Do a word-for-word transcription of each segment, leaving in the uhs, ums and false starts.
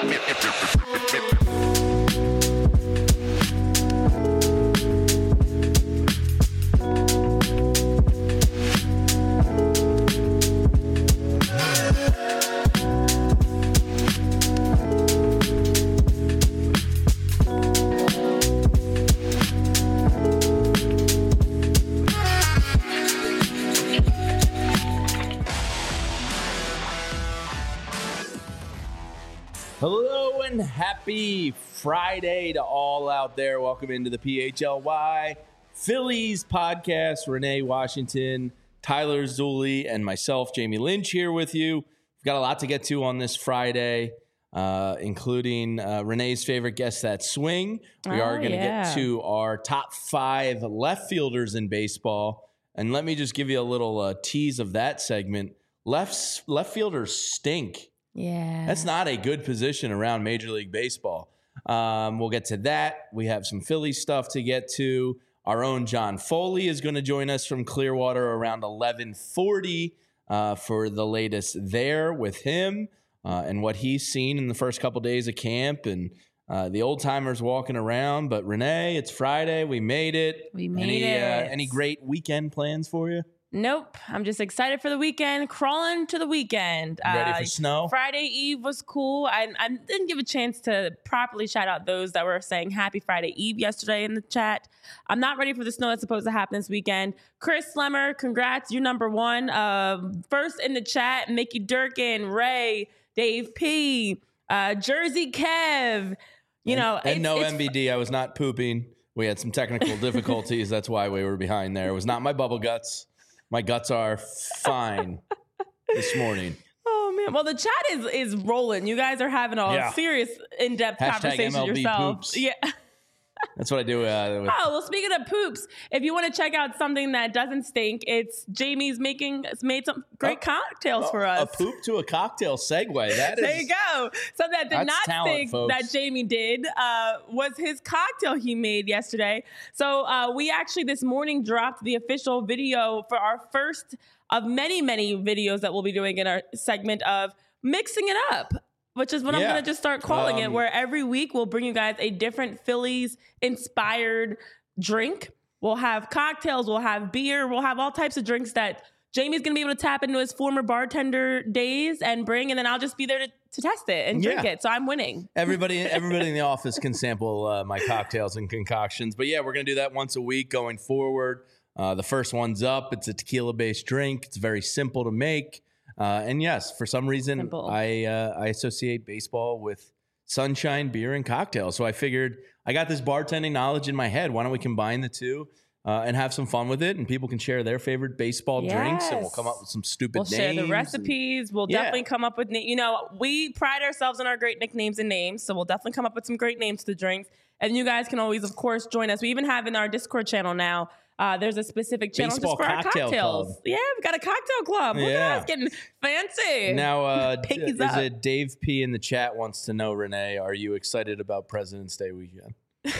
Hello and happy Friday to all out there. Welcome into the P H L Y Phillies podcast. Renee Washington, Tyler Zulli, and myself, Jamie Lynch, here with you. We've got a lot to get to on this Friday, uh, including uh, Renee's favorite guest, that swing. We oh, are going to yeah. get to our top five left fielders in baseball. And let me just give you a little uh, tease of that segment. Left, left fielders stink. Yeah. That's not a good position around Major League Baseball. Um, we'll get to that. We have some Philly stuff to get to. Our own John Foley is going to join us from Clearwater around eleven forty uh, for the latest there with him uh, and what he's seen in the first couple days of camp and uh, the old timers walking around. But Renee, it's Friday. We made it. We made any, it. Uh, any great weekend plans for you? Nope. I'm just excited for the weekend, crawling to the weekend. You ready uh, for snow? Friday Eve was cool. I, I didn't give a chance to properly shout out those that were saying happy Friday Eve yesterday in the chat. I'm not ready for the snow that's supposed to happen this weekend. Chris Slemmer, congrats. You're number one. Uh, first in the chat, Mickey Durkin, Ray, Dave P, uh, Jersey Kev. You and, know, and it's, no it's, M B D. I was not pooping. We had some technical difficulties. That's why we were behind there. It was not my bubble guts. My guts are fine this morning. Oh man! Well, the chat is is rolling. You guys are having a Yeah. serious, in depth Hashtag conversation M L B yourselves. poops. Yeah. That's what I do. Uh, with, Oh well, speaking of poops, if you want to check out something that doesn't stink, it's Jamie's making. It's made some great Oh, cocktails for us. A poop to a cocktail segue. That is. There you go. So that did That's not talent, stink folks. that Jamie did uh, was his cocktail he made yesterday. So uh, we actually this morning dropped the official video for our first of many, many videos that we'll be doing in our segment of mixing it up, which is what Yeah. I'm going to just start calling Um, it, where every week we'll bring you guys a different Phillies-inspired drink. We'll have cocktails, we'll have beer, we'll have all types of drinks that Jamie's going to be able to tap into his former bartender days and bring, and then I'll just be there to, to test it and drink Yeah. it. So I'm winning. Everybody, everybody in the office can sample uh, my cocktails and concoctions. But yeah, we're gonna do that once a week going forward. Uh, the first one's up. It's a tequila-based drink. It's very simple to make. Uh, and yes, for some reason, Simple. I uh, I associate baseball with sunshine, beer, and cocktails. So I figured I got this bartending knowledge in my head. Why don't we combine the two uh, and have some fun with it? And people can share their favorite baseball drinks, and we'll Yes. come up with some stupid We'll names. share the and- recipes. We'll Yeah. definitely come up with, na- you know, we pride ourselves on our great nicknames and names. So we'll definitely come up with some great names to the drinks. And you guys can always, of course, join us. We even have in our Discord channel now, uh, there's a specific channel Baseball just for our cocktail cocktails. club. Yeah, we've got a cocktail club. Look Yeah. at us getting fancy. Now, uh, d- Pinkies is up. it Dave P in the chat wants to know, Renee, are you excited about President's Day weekend?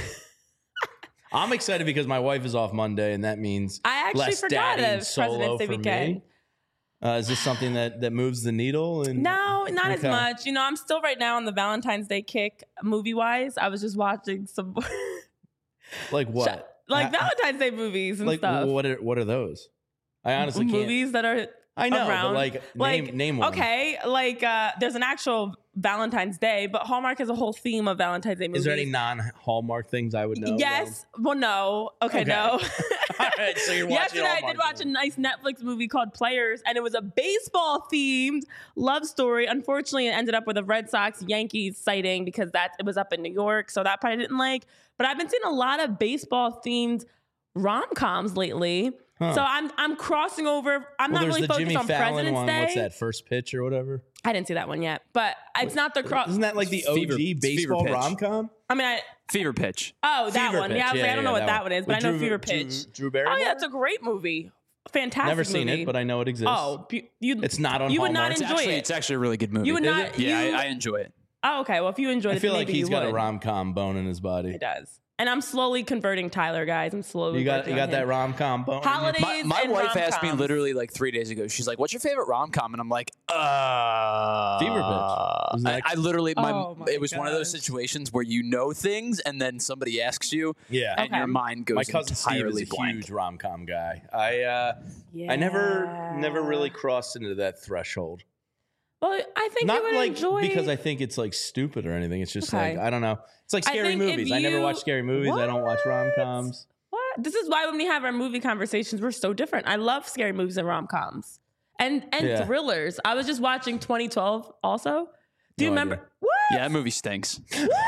I'm excited because my wife is off Monday, and that means I actually less forgot dadding of solo President's Day for weekend. me. Uh, is this something that, that moves the needle? And No, not as Okay. much. You know, I'm still right now on the Valentine's Day kick movie wise. I was just watching some Like what? like Ha- Valentine's Day movies and like stuff. what are what are those? I honestly can't. movies that are I know, around. but like, like name name one. okay, like uh, there's an actual Valentine's Day, but Hallmark has a whole theme of Valentine's Day movies. Is there any non-Hallmark things I would know? Yes. Well, no. Okay, Okay. no. All right, so you're watching Yesterday, I Hallmark did watch a movies. nice Netflix movie called Players, and it was a baseball-themed love story. Unfortunately, it ended up with a Red Sox Yankees sighting because that it was up in New York, so that part I didn't like. But I've been seeing a lot of baseball-themed rom-coms lately. Huh. So I'm I'm crossing over. I'm Well, not there's really the focused Jimmy on Fallon President's one. Day. What's that? First Pitch or whatever? I didn't see that one yet, but it's not the cross. Isn't that like the O G Fever- it's baseball Fever Pitch. rom com? I mean, I, Fever Pitch. oh, that Fever one. Pitch. Yeah, I was Yeah, like, I don't know yeah, what that that one. one is, but With I know Drew- Fever Drew- Pitch. Drew Barrymore? Oh yeah, it's a great movie. Fantastic. Never seen movie. it, but I know it exists. Oh, bu- you. It's not on You would not Hallmark. It's enjoy actually, it. it's actually a really good movie. You would Is not- it? Yeah, you- I, I enjoy it. Oh, okay. Well, if you enjoyed I it, feel then like maybe he's you got would. a rom com bone in his body. He does. And I'm slowly converting Tyler, guys. I'm slowly. You got working you got on that him. rom com bone. Holidays. My, my and wife asked me rom-coms. literally like three days ago. She's like, "What's your favorite rom com?" And I'm like, "Uh, Fever Pitch. Wasn't I, that- I literally, my, Oh my it was one of those gosh. situations where you know things and then somebody asks you, Yeah. and Okay. your mind goes My cousin Steve entirely is a blank. huge rom com guy. I uh, I never never really crossed into that threshold. Well, I think Not you would like enjoy because I think it's like stupid or anything. It's just Okay. like I don't know. It's like I scary think if movies. I never you- watch scary movies. I don't watch What? rom coms. What? This is why when we have our movie conversations, we're so different. I love scary movies and rom coms, and and Yeah. thrillers. I was just watching twenty twelve. Also, do you No remember? idea. What? Yeah, that movie stinks.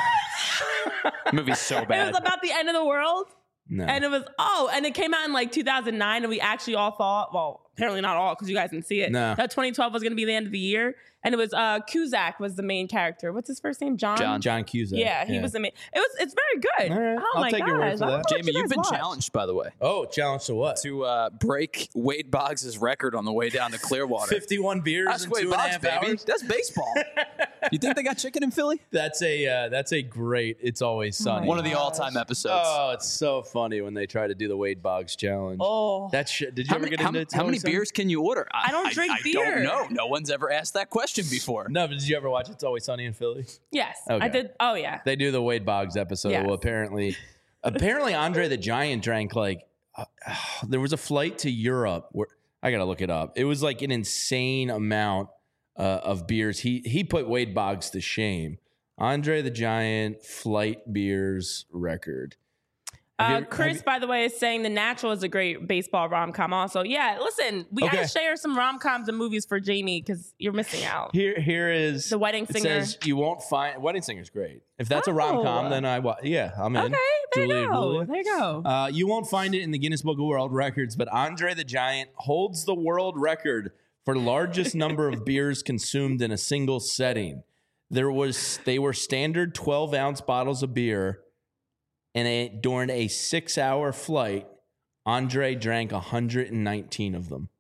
That movie's so It bad. was about the end of the world. No. And it was, oh, and it came out in like two thousand nine, and we actually all thought, well, apparently not all because you guys didn't see it, No. that twenty twelve was going to be the end of the year. And it was uh, Cusack was the main character. What's his first name? John? John. John Cusack. Yeah, he was the main. It was, it's very good. All right, Oh I'll my take gosh. your word for I don't that. know what Jamie, you you've guys been watch. challenged, by the way, Oh, challenge to what? to uh, break Wade Boggs' record on the way down to Clearwater. fifty-one beers That's in Wade two and a Boggs, half baby. hours. That's baseball. You think they got chicken in Philly? That's a uh, that's a great. It's always sunny. One of the gosh. all-time episodes. Oh, it's so funny when they try to do the Wade Boggs challenge. Oh. That shit. Did you how ever many, get how, into how many It's Always beers can you order? I don't drink I, beer. don't know. No one's ever asked that question before. Sunny? No, but did you ever watch It's Always Sunny in Philly? Yes, Okay. I did. Oh, yeah. They do the Wade Boggs episode. Yes. Well, apparently, apparently Andre the Giant drank like uh, there was a flight to Europe where I gotta look it up. It was like an insane amount uh, of beers. He he put Wade Boggs to shame. Andre the Giant flight beers record. Have you Uh, ever- have Chris, you- by the way, is saying The Natural is a great baseball rom com. Also, yeah. Listen, we Okay. gotta share some rom coms and movies for Jamie because you're missing out. Here, here is The Wedding it Singer. says you won't find Wedding Singer's great. If that's a Oh. rom com, then I wa- yeah, I'm in. Okay, there Julia you go. Julia. There you go. Uh, you won't find it in the Guinness Book of World Records, but Andre the Giant holds the world record for largest number of beers consumed in a single setting. There was they were standard twelve ounce bottles of beer, and a, during a six hour flight, Andre drank one hundred nineteen of them.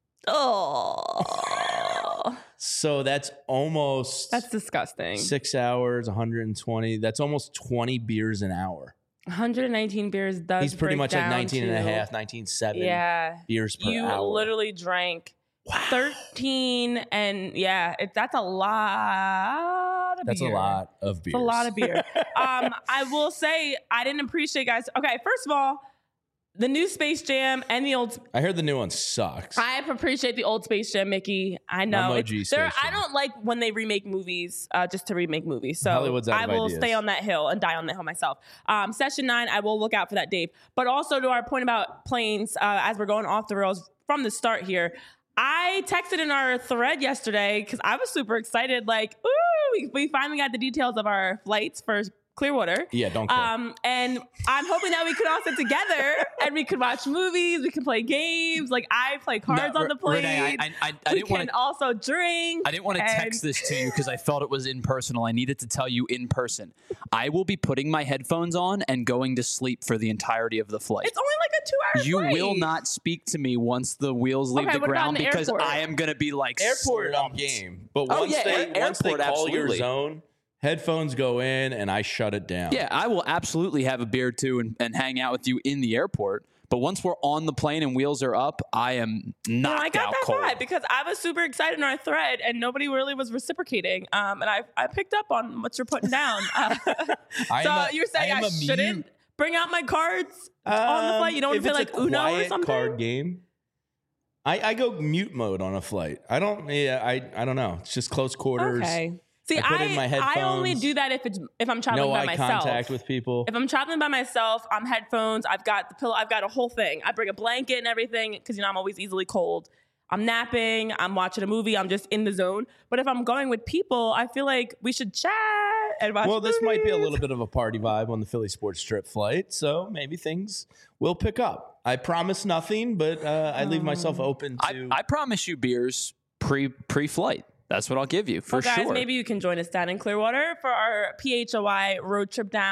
Oh, So that's almost that's disgusting. six hours, one hundred twenty. That's almost twenty beers an hour. one hundred nineteen beers does. He's pretty break much like down nineteen and a to- half, nineteen seven Yeah, beers per you hour. literally drank thirteen, and yeah, it, that's a lot of That's beer. a lot of beers. It's a lot of beer. um, I will say I didn't appreciate, guys. Okay, first of all, the new Space Jam and the old. I heard the new one sucks. I appreciate the old Space Jam, Mickey. I know. I'm O It's- G there- Space I Jam. don't like when they remake movies uh, just to remake movies. So Hollywood's out I of will ideas. stay on that hill and die on that hill myself. Um, session nine, I will look out for that, Dave. But also to our point about planes, uh, as we're going off the rails from the start here, I texted in our thread yesterday because I was super excited. Like, ooh, we, we finally got the details of our flights for Clearwater. Yeah, don't care. Um, and I'm hoping that we could all sit together and we could watch movies, we can play games. Like I play cards No, on the plane. Renee, I, I, I, I we didn't can want to. also drink. I didn't want to and- text this to you because I felt it was impersonal. I needed to tell you in person. I will be putting my headphones on and going to sleep for the entirety of the flight. It's only like a two-hour You flight. will not speak to me once the wheels leave Okay, the what about ground in the because airport? I am going to be like Airport I'm slumped. game, but Oh, once yeah, they air- once they airport, call your absolutely. zone, headphones go in and I shut it down. Yeah, I will absolutely have a beer too and, and hang out with you in the airport. But once we're on the plane and wheels are up, I am No, knocked I got out that cold. vibe because I was super excited in our thread and nobody really was reciprocating. Um, and I, I picked up on what you're putting down. Uh, I so am a- you're saying I am I, a shouldn't mute. bring out my cards on the flight? You don't Um, want to if play it's like a Uno or quiet something? card game. I, I go mute mode on a flight. I don't. Yeah, I I don't know. It's just close quarters. Okay. See, I put I, in my I only headphones. do that if it's if I'm traveling No by eye myself. contact with people. If I'm traveling by myself, I'm headphones. I've got the pillow. I've got a whole thing. I bring a blanket and everything because you know I'm always easily cold. I'm napping. I'm watching a movie. I'm just in the zone. But if I'm going with people, I feel like we should chat and watch. Well, this might be a movies. little bit of a party vibe on the Philly Sports Strip flight, so maybe things will pick up. I promise nothing, but uh, I leave myself open I, to. I promise you beers pre pre flight. That's what I'll give you for Well, guys, sure. maybe you can join us down in Clearwater for our P H O I road trip down.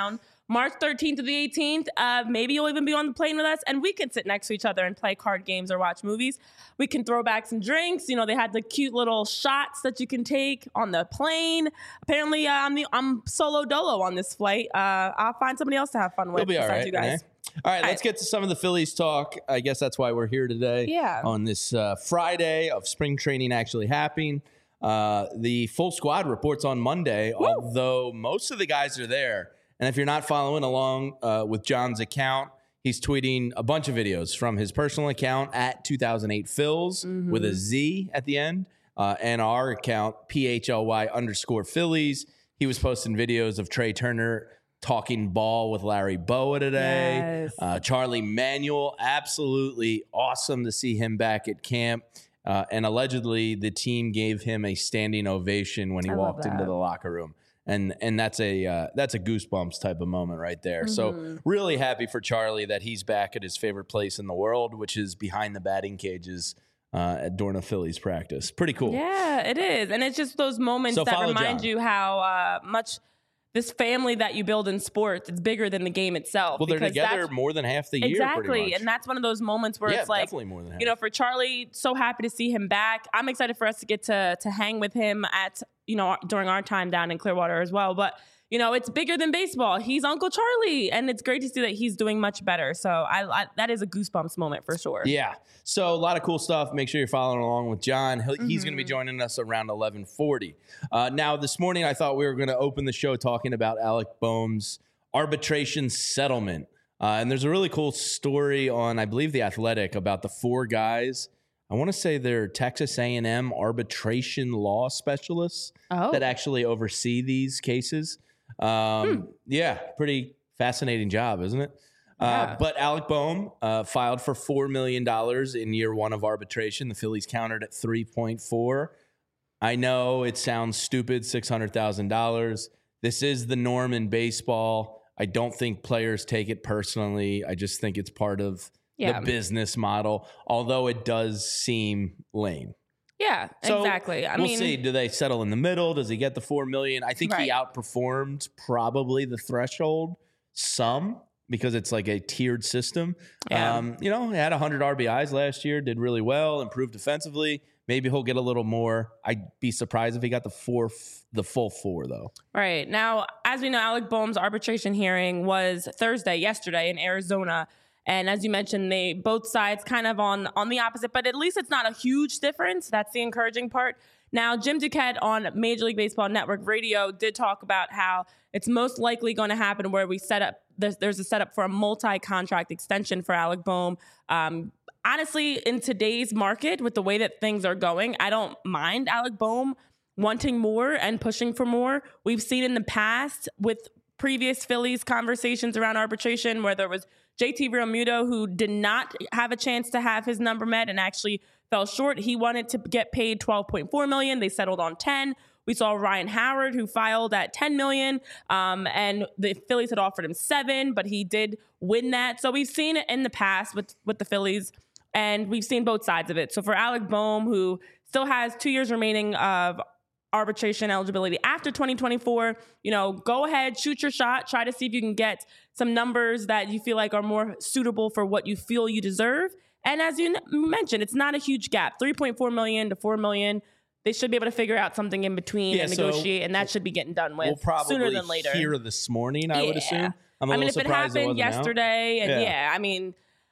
March thirteenth to the eighteenth, uh, maybe you'll even be on the plane with us, and we can sit next to each other and play card games or watch movies. We can throw back some drinks. You know, they had the cute little shots that you can take on the plane. Apparently, uh, I'm the I'm solo dolo on this flight. Uh, I'll find somebody else to have fun with. We'll be all besides right, you guys. eh? All right, let's get to some of the Phillies talk. I guess that's why we're here today. Yeah. On this uh, Friday of spring training actually happening. Uh, the full squad reports on Monday, Woo. although most of the guys are there. And if you're not following along uh, with John's account, he's tweeting a bunch of videos from his personal account at two thousand eight Phils mm-hmm. with a Z at the end, uh, and our account, P H L Y underscore Phillies. He was posting videos of Trey Turner talking ball with Larry Boa today. Yes. Uh, Charlie Manuel, absolutely awesome to see him back at camp. Uh, and allegedly, the team gave him a standing ovation when he I walked into the locker room. And and that's a uh, that's a goosebumps type of moment right there. Mm-hmm. So really happy for Charlie that he's back at his favorite place in the world, which is behind the batting cages uh, at Dorna Phillies practice. Pretty cool. Yeah, it is. And it's just those moments So that remind John. you how uh, much this family that you build in sports, it's bigger than the game itself. Well, they're because together that's- more than half the year. Exactly. Pretty much. And that's one of those moments where yeah, it's like, definitely more than half. you know, for Charlie, so happy to see him back. I'm excited for us to get to to hang with him at, you know, during our time down in Clearwater as well. But, you know, it's bigger than baseball. He's Uncle Charlie, and it's great to see that he's doing much better. So I, I that is a goosebumps moment for sure. Yeah. So a lot of cool stuff. Make sure you're following along with John. He'll, Mm-hmm. He's going to be joining us around eleven forty. Uh, now, this morning, I thought we were going to open the show talking about Alec Boehm's arbitration settlement. Uh, and there's a really cool story on, I believe, The Athletic about the four guys. I want to say they're Texas A and M arbitration law specialists Oh. that actually oversee these cases. Um, Hmm. Yeah, pretty fascinating job, isn't it? Uh, Yeah. but Alec Boehm uh, filed for four million dollars in year one of arbitration. The Phillies countered at three point four. I know it sounds stupid, six hundred thousand dollars. This is the norm in baseball. I don't think players take it personally. I just think it's part of Yeah. the business model, although it does seem lame. Yeah, So exactly. I we'll mean, see. Do they settle in the middle? Does he get the four million? I think he Right. outperformed probably the threshold some because it's like a tiered system. Yeah. Um, you know, he had one hundred R B Is last year, did really well, improved defensively. Maybe he'll get a little more. I'd be surprised if he got the four, the full four though. Right. Now, as we know, Alec Boehm's arbitration hearing was Thursday, yesterday in Arizona. And as you mentioned, they both sides kind of on, on the opposite, but at least it's not a huge difference. That's the encouraging part. Now, Jim Duquette on Major League Baseball Network Radio did talk about how it's most likely going to happen where we set up, there's, there's a setup for a multi-contract extension for Alec Boehm. Um, honestly, in today's market, with the way that things are going, I don't mind Alec Boehm wanting more and pushing for more. We've seen in the past with previous Phillies conversations around arbitration where there was J T Realmuto, who did not have a chance to have his number met and actually fell short. He wanted to get paid twelve point four million dollars. They settled on ten. We saw Ryan Howard, who filed at ten million dollars, um, and the Phillies had offered him seven, but he did win that. So we've seen it in the past with, with the Phillies, and we've seen both sides of it. So for Alec Boehm, who still has two years remaining of arbitration eligibility after twenty twenty-four, you know, go ahead, shoot your shot, try to see if you can get some numbers that you feel like are more suitable for what you feel you deserve. And as you n- mentioned, it's not a huge gap, three point four million to four million. They should be able to figure out something in between Yeah, and so negotiate, and that should be getting done with We'll probably sooner than later. hear this morning, I would Yeah. assume. I'm a I mean, little if it surprised happened wasn't out. yesterday, and Yeah. yeah. I mean,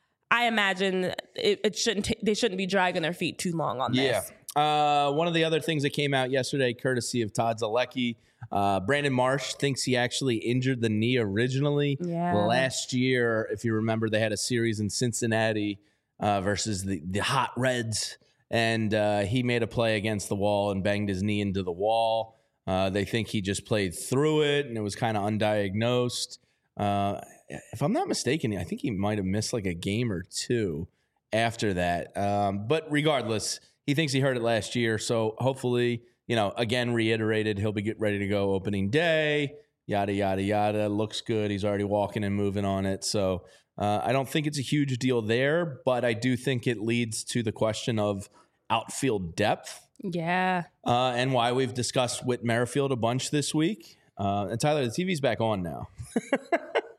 I imagine it, it shouldn't. T- they shouldn't be dragging their feet too long on Yeah. this. Uh, one of the other things that came out yesterday, courtesy of Todd Zalecki, uh, Brandon Marsh thinks he actually injured the knee originally. Yeah. Last year, if you remember, they had a series in Cincinnati uh, versus the, the Hot Reds, and uh, he made a play against the wall and banged his knee into the wall. Uh, they think he just played through it, and it was kind of undiagnosed. Uh, if I'm not mistaken, I think he might have missed like a game or two after that. Um, but regardless, he thinks he heard it last year. So hopefully, you know, again, reiterated, he'll be get ready to go opening day, yada, yada, yada. Looks good. He's already walking and moving on it. So uh, I don't think it's a huge deal there, but I do think it leads to the question of outfield depth Yeah. uh, and why we've discussed Whit Merrifield a bunch this week. Uh, and Tyler, the T V's back on now.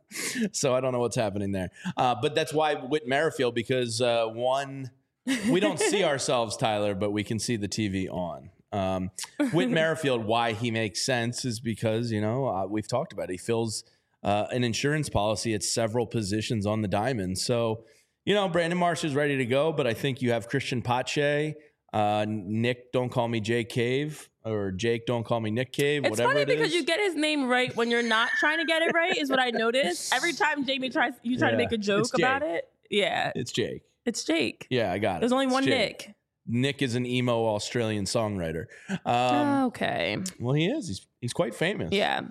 So I don't know what's happening there. Uh, but that's why Whit Merrifield, because uh, one, we don't see ourselves, Tyler, but we can see the T V on. Um, Whit Merrifield, why he makes sense is because, you know, uh, we've talked about it. He fills uh, an insurance policy at several positions on the diamond. So, you know, Brandon Marsh is ready to go, but I think you have Christian Pache, uh, Nick, don't call me Jake Cave, or Jake, don't call me Nick Cave, it's whatever funny it because is. you get his name right when you're not trying to get it right, is what I noticed. Every time Jamie tries, you try Yeah, to make a joke it's Jake. about it. Yeah, It's Jake. it's Jake. Yeah, I got it. There's only It's one Jake. Nick. Nick is an emo Australian songwriter. Um, Okay. well, he is. He's he's quite famous. Yeah.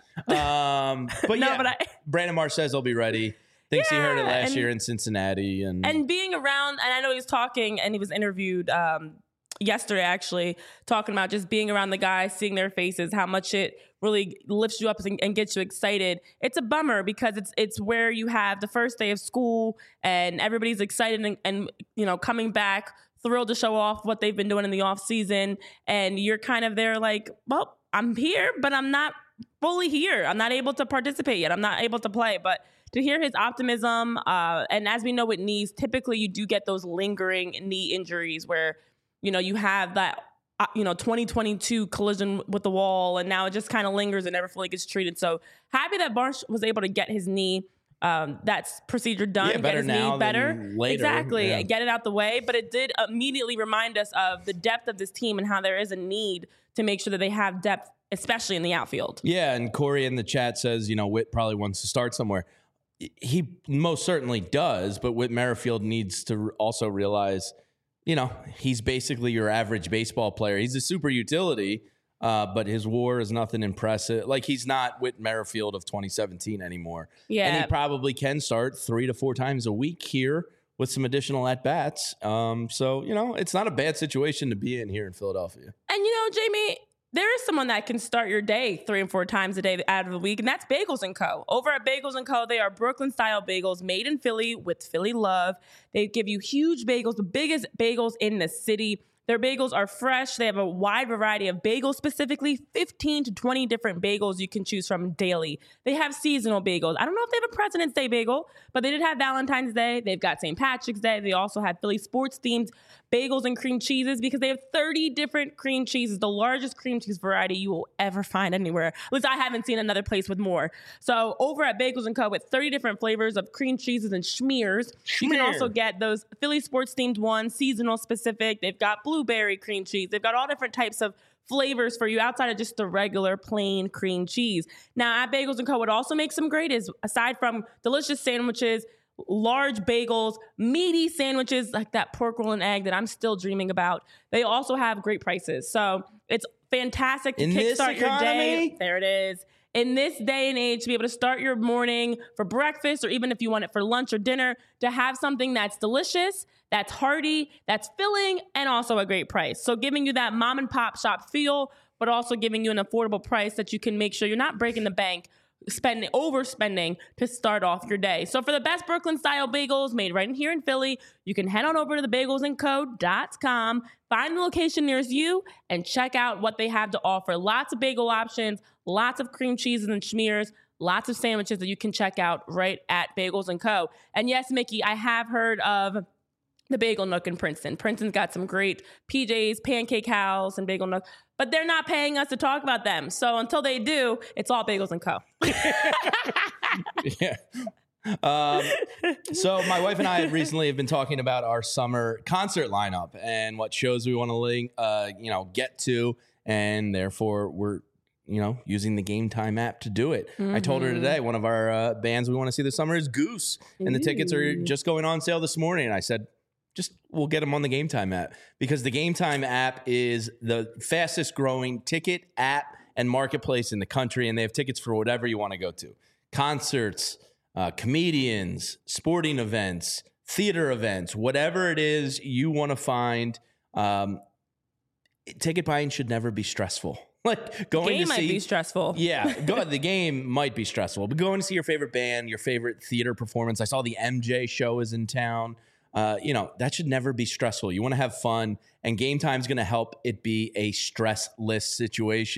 Um, but No, yeah, but I- Brandon Marsh says he'll be ready. Thinks he heard it Yeah, last and- year in Cincinnati, and, And being around, and I know he was talking, and he was interviewed um, yesterday, actually, talking about just being around the guys, seeing their faces, how much it really lifts you up and, and gets you excited. It's a bummer because it's it's where you have the first day of school, and everybody's excited and, and you know coming back, thrilled to show off what they've been doing in the off season, and you're kind of there like, well, I'm here, but I'm not fully here. I'm not able to participate yet. I'm not able to play, but to hear his optimism, uh, and as we know with knees, typically you do get those lingering knee injuries where, you know, you have that, uh, you know, twenty twenty-two collision with the wall, and now it just kind of lingers and never fully gets treated. So happy that Marsh was able to get his knee, um, that's procedure done, Yeah, get better his now knee better. than later. Exactly, Yeah. get it out the way. But it did immediately remind us of the depth of this team and how there is a need to make sure that they have depth, especially in the outfield. yeah. And Corey in the chat says, you know, Whit probably wants to start somewhere. He most certainly does, but Whit Merrifield needs to also realize, you know, he's basically your average baseball player. He's a super utility, uh, but his WAR is nothing impressive. Like, he's not Whit Merrifield of twenty seventeen anymore. Yeah. And he probably can start three to four times a week here with some additional at-bats. Um, so, you know, it's not a bad situation to be in here in Philadelphia. And you know, Jamie, there is someone that can start your day three and four times a day out of the week, and that's Bagels and Co. Over at Bagels and Co., they are Brooklyn-style bagels made in Philly with Philly love. They give you huge bagels, the biggest bagels in the city. Their bagels are fresh. They have a wide variety of bagels, specifically fifteen to twenty different bagels you can choose from daily. They have seasonal bagels. I don't know if they have a President's Day bagel, but they did have Valentine's Day. They've got Saint Patrick's Day. They also have Philly sports-themed bagels and cream cheeses because they have thirty different cream cheeses, the largest cream cheese variety you will ever find anywhere. At least I haven't seen another place with more. So over at Bagels and Co. with thirty different flavors of cream cheeses and schmears, you can Schmear. also get those Philly sports themed ones, seasonal specific. They've got blueberry cream cheese. They've got all different types of flavors for you outside of just the regular plain cream cheese. Now at Bagels and Co. what also makes them great is, aside from delicious sandwiches, large bagels, meaty sandwiches like that pork roll and egg that I'm still dreaming about, they also have great prices. So it's fantastic to In this kickstart your day. economy? There it is. In this day and age, to be able to start your morning for breakfast, or even if you want it for lunch or dinner, to have something that's delicious, that's hearty, that's filling, and also a great price. So giving you that mom and pop shop feel, but also giving you an affordable price that you can make sure you're not breaking the bank, spending overspending to start off your day. So for the best Brooklyn style bagels made right in here in Philly, you can head on over to the bagels and co dot com, find the location nearest you, and check out what they have to offer. Lots of bagel options, lots of cream cheeses and schmears, lots of sandwiches that you can check out right at Bagels and Co. And yes, Mickey, I have heard of the Bagel Nook in Princeton. Princeton's got some great P Js, Pancake House, and Bagel Nook, but they're not paying us to talk about them. So until they do, it's all Bagels and Co. Yeah. Um, so my wife and I have recently have been talking about our summer concert lineup and what shows we want to link, uh, you know, get to, and therefore we're, you know, using the Game Time app to do it. I told her today one of our uh, bands we want to see this summer is Goose, and the tickets are just going on sale this morning. And I said, just we'll get them on the Game Time app, because the Game Time app is the fastest growing ticket app and marketplace in the country, and they have tickets for whatever you want to go to. Concerts, uh, comedians, sporting events, theater events, whatever it is you want to find. Um, ticket buying should never be stressful. Like going Game to might see, be stressful. yeah, go, the game might be stressful, but going to see your favorite band, your favorite theater performance. I saw the M J show is in town. Uh, you know, that should never be stressful. You want to have fun, and Game Time is going to help it be a stressless situation.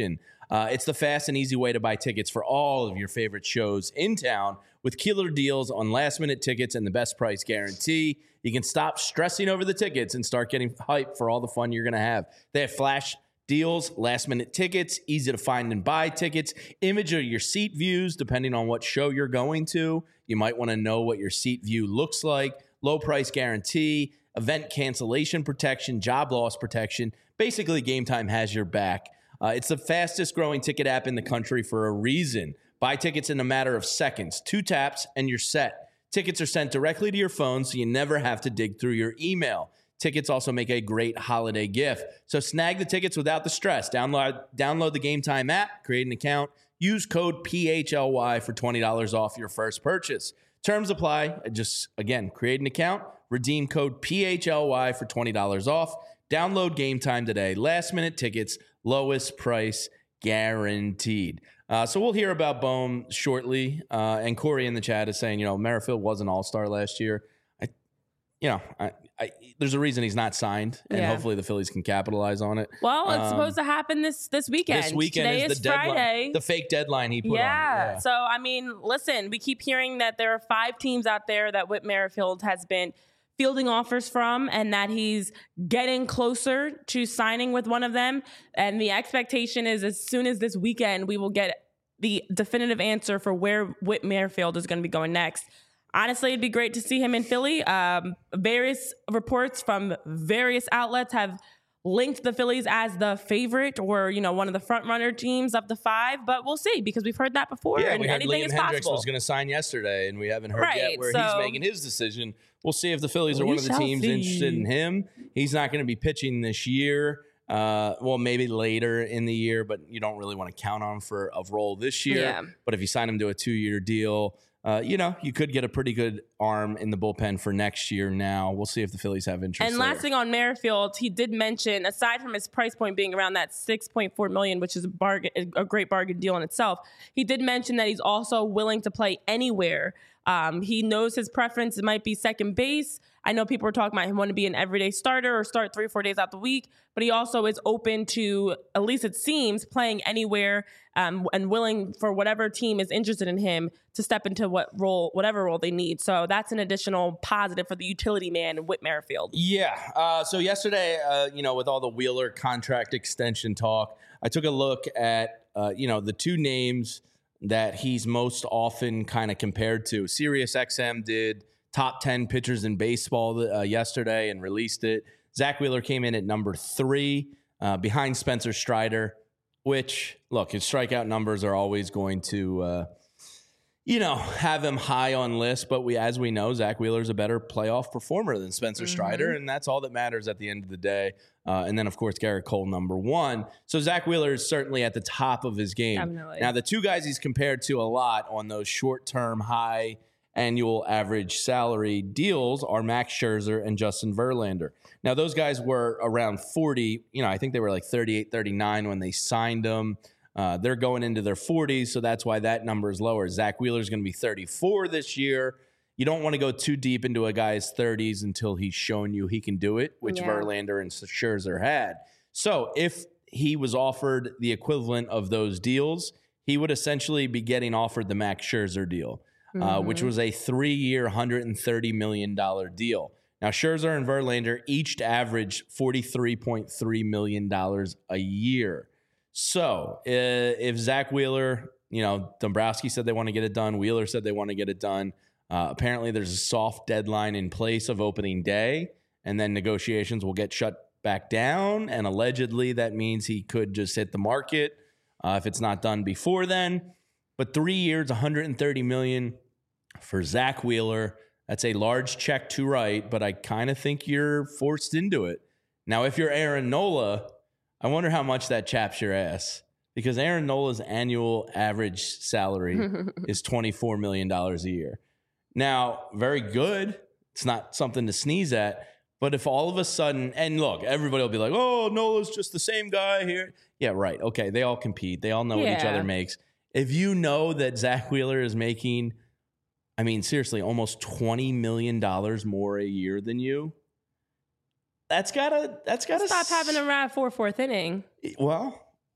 Uh, it's the fast and easy way to buy tickets for all of your favorite shows in town with killer deals on last-minute tickets and the best price guarantee. You can stop stressing over the tickets and start getting hyped for all the fun you're going to have. They have flash deals, last-minute tickets, easy to find and buy tickets, image of your seat views depending on what show you're going to. You might want to know what your seat view looks like, low price guarantee, event cancellation protection, job loss protection. Basically, Game Time has your back. Uh, it's the fastest growing ticket app in the country for a reason. Buy tickets in a matter of seconds. Two taps and you're set. Tickets are sent directly to your phone, so you never have to dig through your email. Tickets also make a great holiday gift. So snag the tickets without the stress. Download, download the Game Time app, create an account, use code P H L Y for twenty dollars off your first purchase. Terms apply. Just, again, create an account, redeem code P H L Y for twenty dollars off. Download Game Time today. Last minute tickets, lowest price guaranteed. Uh, so we'll hear about Bohm shortly. Uh, and Corey in the chat is saying, you know, Merrifield was an all-star last year. I, you know, I, I, there's a reason he's not signed, and Yeah. hopefully the Phillies can capitalize on it. Well, it's Um, supposed to happen this this weekend. This weekend Today is is the deadline, Friday. the fake deadline he put yeah. on it. So, I mean, listen, we keep hearing that there are five teams out there that Whit Merrifield has been fielding offers from and that he's getting closer to signing with one of them. And the expectation is as soon as this weekend, we will get the definitive answer for where Whit Merrifield is going to be going next. Honestly, it'd be great to see him in Philly. Um, various reports from various outlets have linked the Phillies as the favorite or, you know, one of the front runner teams of the five, but we'll see because we've heard that before. Yeah, and we heard anything Liam is Hendricks possible. was going to sign yesterday, and we haven't heard Right, yet where so- he's making his decision. We'll see if the Phillies are We one of the shall teams see. interested in him. He's not going to be pitching this year. Uh, well, maybe later in the year, but you don't really want to count on him for a role this year. Yeah. But if you sign him to a two-year deal, uh, you know, you could get a pretty good arm in the bullpen for next year now. We'll see if the Phillies have interest And there. last thing on Merrifield, he did mention, aside from his price point being around that six point four million dollars, which is a bargain, a great bargain deal in itself, he did mention that he's also willing to play anywhere. Um, he knows his preference. It might be second base. I know people were talking about him wanting to be an everyday starter or start three or four days out the week, but he also is open to, at least it seems, playing anywhere um, and willing for whatever team is interested in him to step into what role, whatever role they need. So that's an additional positive for the utility man, Whit Merrifield. Yeah. Uh, so yesterday, uh, you know, with all the Wheeler contract extension talk, I took a look at, uh, you know, the two names that he's most often kind of compared to. Sirius X M did top ten pitchers in baseball uh, yesterday and released it. Zach Wheeler came in at number three uh, behind Spencer Strider, which, look, his strikeout numbers are always going to, uh, you know, have him high on lists. But we, as we know, Zach Wheeler's a better playoff performer than Spencer Mm-hmm. Strider, and that's all that matters at the end of the day. Uh, and then, of course, Garrett Cole, number one. So Zach Wheeler is certainly at the top of his game. Definitely. Now, the two guys he's compared to a lot on those short-term, high annual average salary deals are Max Scherzer and Justin Verlander. Now, those guys were around forty. You know, I think they were like thirty-eight, thirty-nine when they signed them. Uh, they're going into their forties, so that's why that number is lower. Zach Wheeler's going to be thirty-four this year. You don't want to go too deep into a guy's thirties until he's shown you he can do it, which Yeah. Verlander and Scherzer had. So if he was offered the equivalent of those deals, he would essentially be getting offered the Max Scherzer deal, uh, which was a three-year, one hundred thirty million dollars deal. Now, Scherzer and Verlander each averaged forty-three point three million dollars a year. So uh, if Zach Wheeler, you know, Dombrowski said they want to get it done, Wheeler said they want to get it done. Uh, apparently, there's a soft deadline in place of opening day, and then negotiations will get shut back down. And allegedly, that means he could just hit the market uh, if it's not done before then. But three years, one hundred thirty million dollars for Zach Wheeler. That's a large check to write, but I kind of think you're forced into it. Now, if you're Aaron Nola, I wonder how much that chaps your ass, because Aaron Nola's annual average salary is twenty-four million dollars a year. Now, very good. It's not something to sneeze at. But if all of a sudden, and look, everybody will be like, oh, Nola's just the same guy here. Yeah, right. Okay, they all compete. They all know what each Yeah. other makes. If you know that Zach Wheeler is making, I mean, seriously, almost twenty million dollars more a year than you, that's gotta, that's gotta Stop having a ride for fourth inning. Well,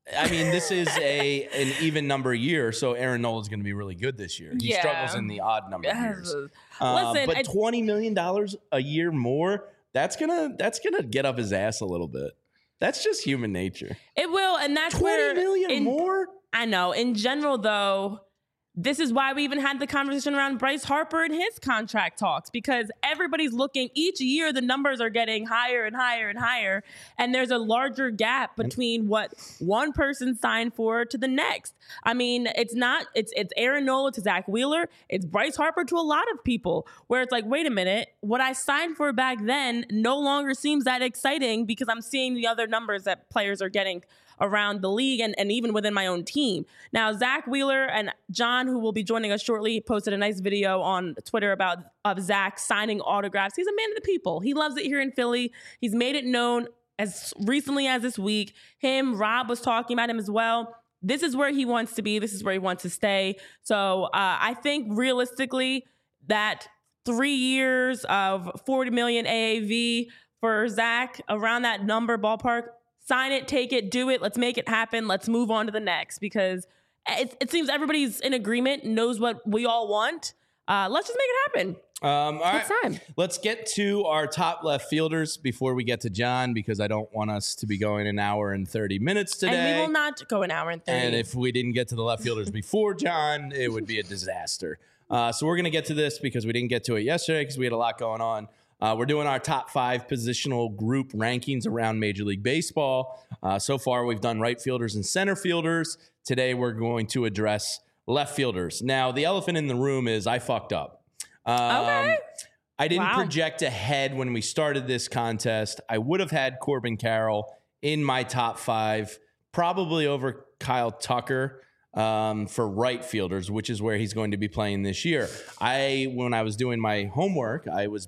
I mean, this is a an even number year, so Aaron Nola is going to be really good this year. He Yeah. struggles in the odd number Yes. years. Uh, Listen, but I- twenty million dollars a year more, that's gonna that's gonna get up his ass a little bit. That's just human nature. It will, and that's Twenty where million in- more. I know. In general, though, this is why we even had the conversation around Bryce Harper and his contract talks, because everybody's looking each year, the numbers are getting higher and higher and higher. And there's a larger gap between what one person signed for to the next. I mean, it's not, it's, it's Aaron Nola to Zach Wheeler. It's Bryce Harper to a lot of people, where it's like, wait a minute, what I signed for back then no longer seems that exciting because I'm seeing the other numbers that players are getting around the league and, and even within my own team. Now, Zach Wheeler and John, who will be joining us shortly, posted a nice video on Twitter about of Zach signing autographs. He's a man of the people. He loves it here in Philly. He's made it known as recently as this week. Him, Rob was talking about him as well. This is where he wants to be. This is where he wants to stay. So uh, I think realistically that three years of forty million A A V for Zach, around that number ballpark, sign it, take it, do it. Let's make it happen. Let's move on to the next, because it, it seems everybody's in agreement, knows what we all want. Uh, let's just make it happen. Um, all It's right, time. let's get to our top left fielders before we get to John, because I don't want us to be going an hour and thirty minutes today. And we will not go an hour and thirty. And if we didn't get to the left fielders before John, it would be a disaster. Uh, so we're going to get to this because we didn't get to it yesterday because we had a lot going on. Uh, we're doing our top five positional group rankings around Major League Baseball. Uh, so far, we've done right fielders and center fielders. Today, we're going to address left fielders. Now, the elephant in the room is I fucked up. Um, Okay. I didn't Wow. project ahead when we started this contest. I would have had Corbin Carroll in my top five, probably over Kyle Tucker um, for right fielders, which is where he's going to be playing this year. I, when I was doing my homework, I was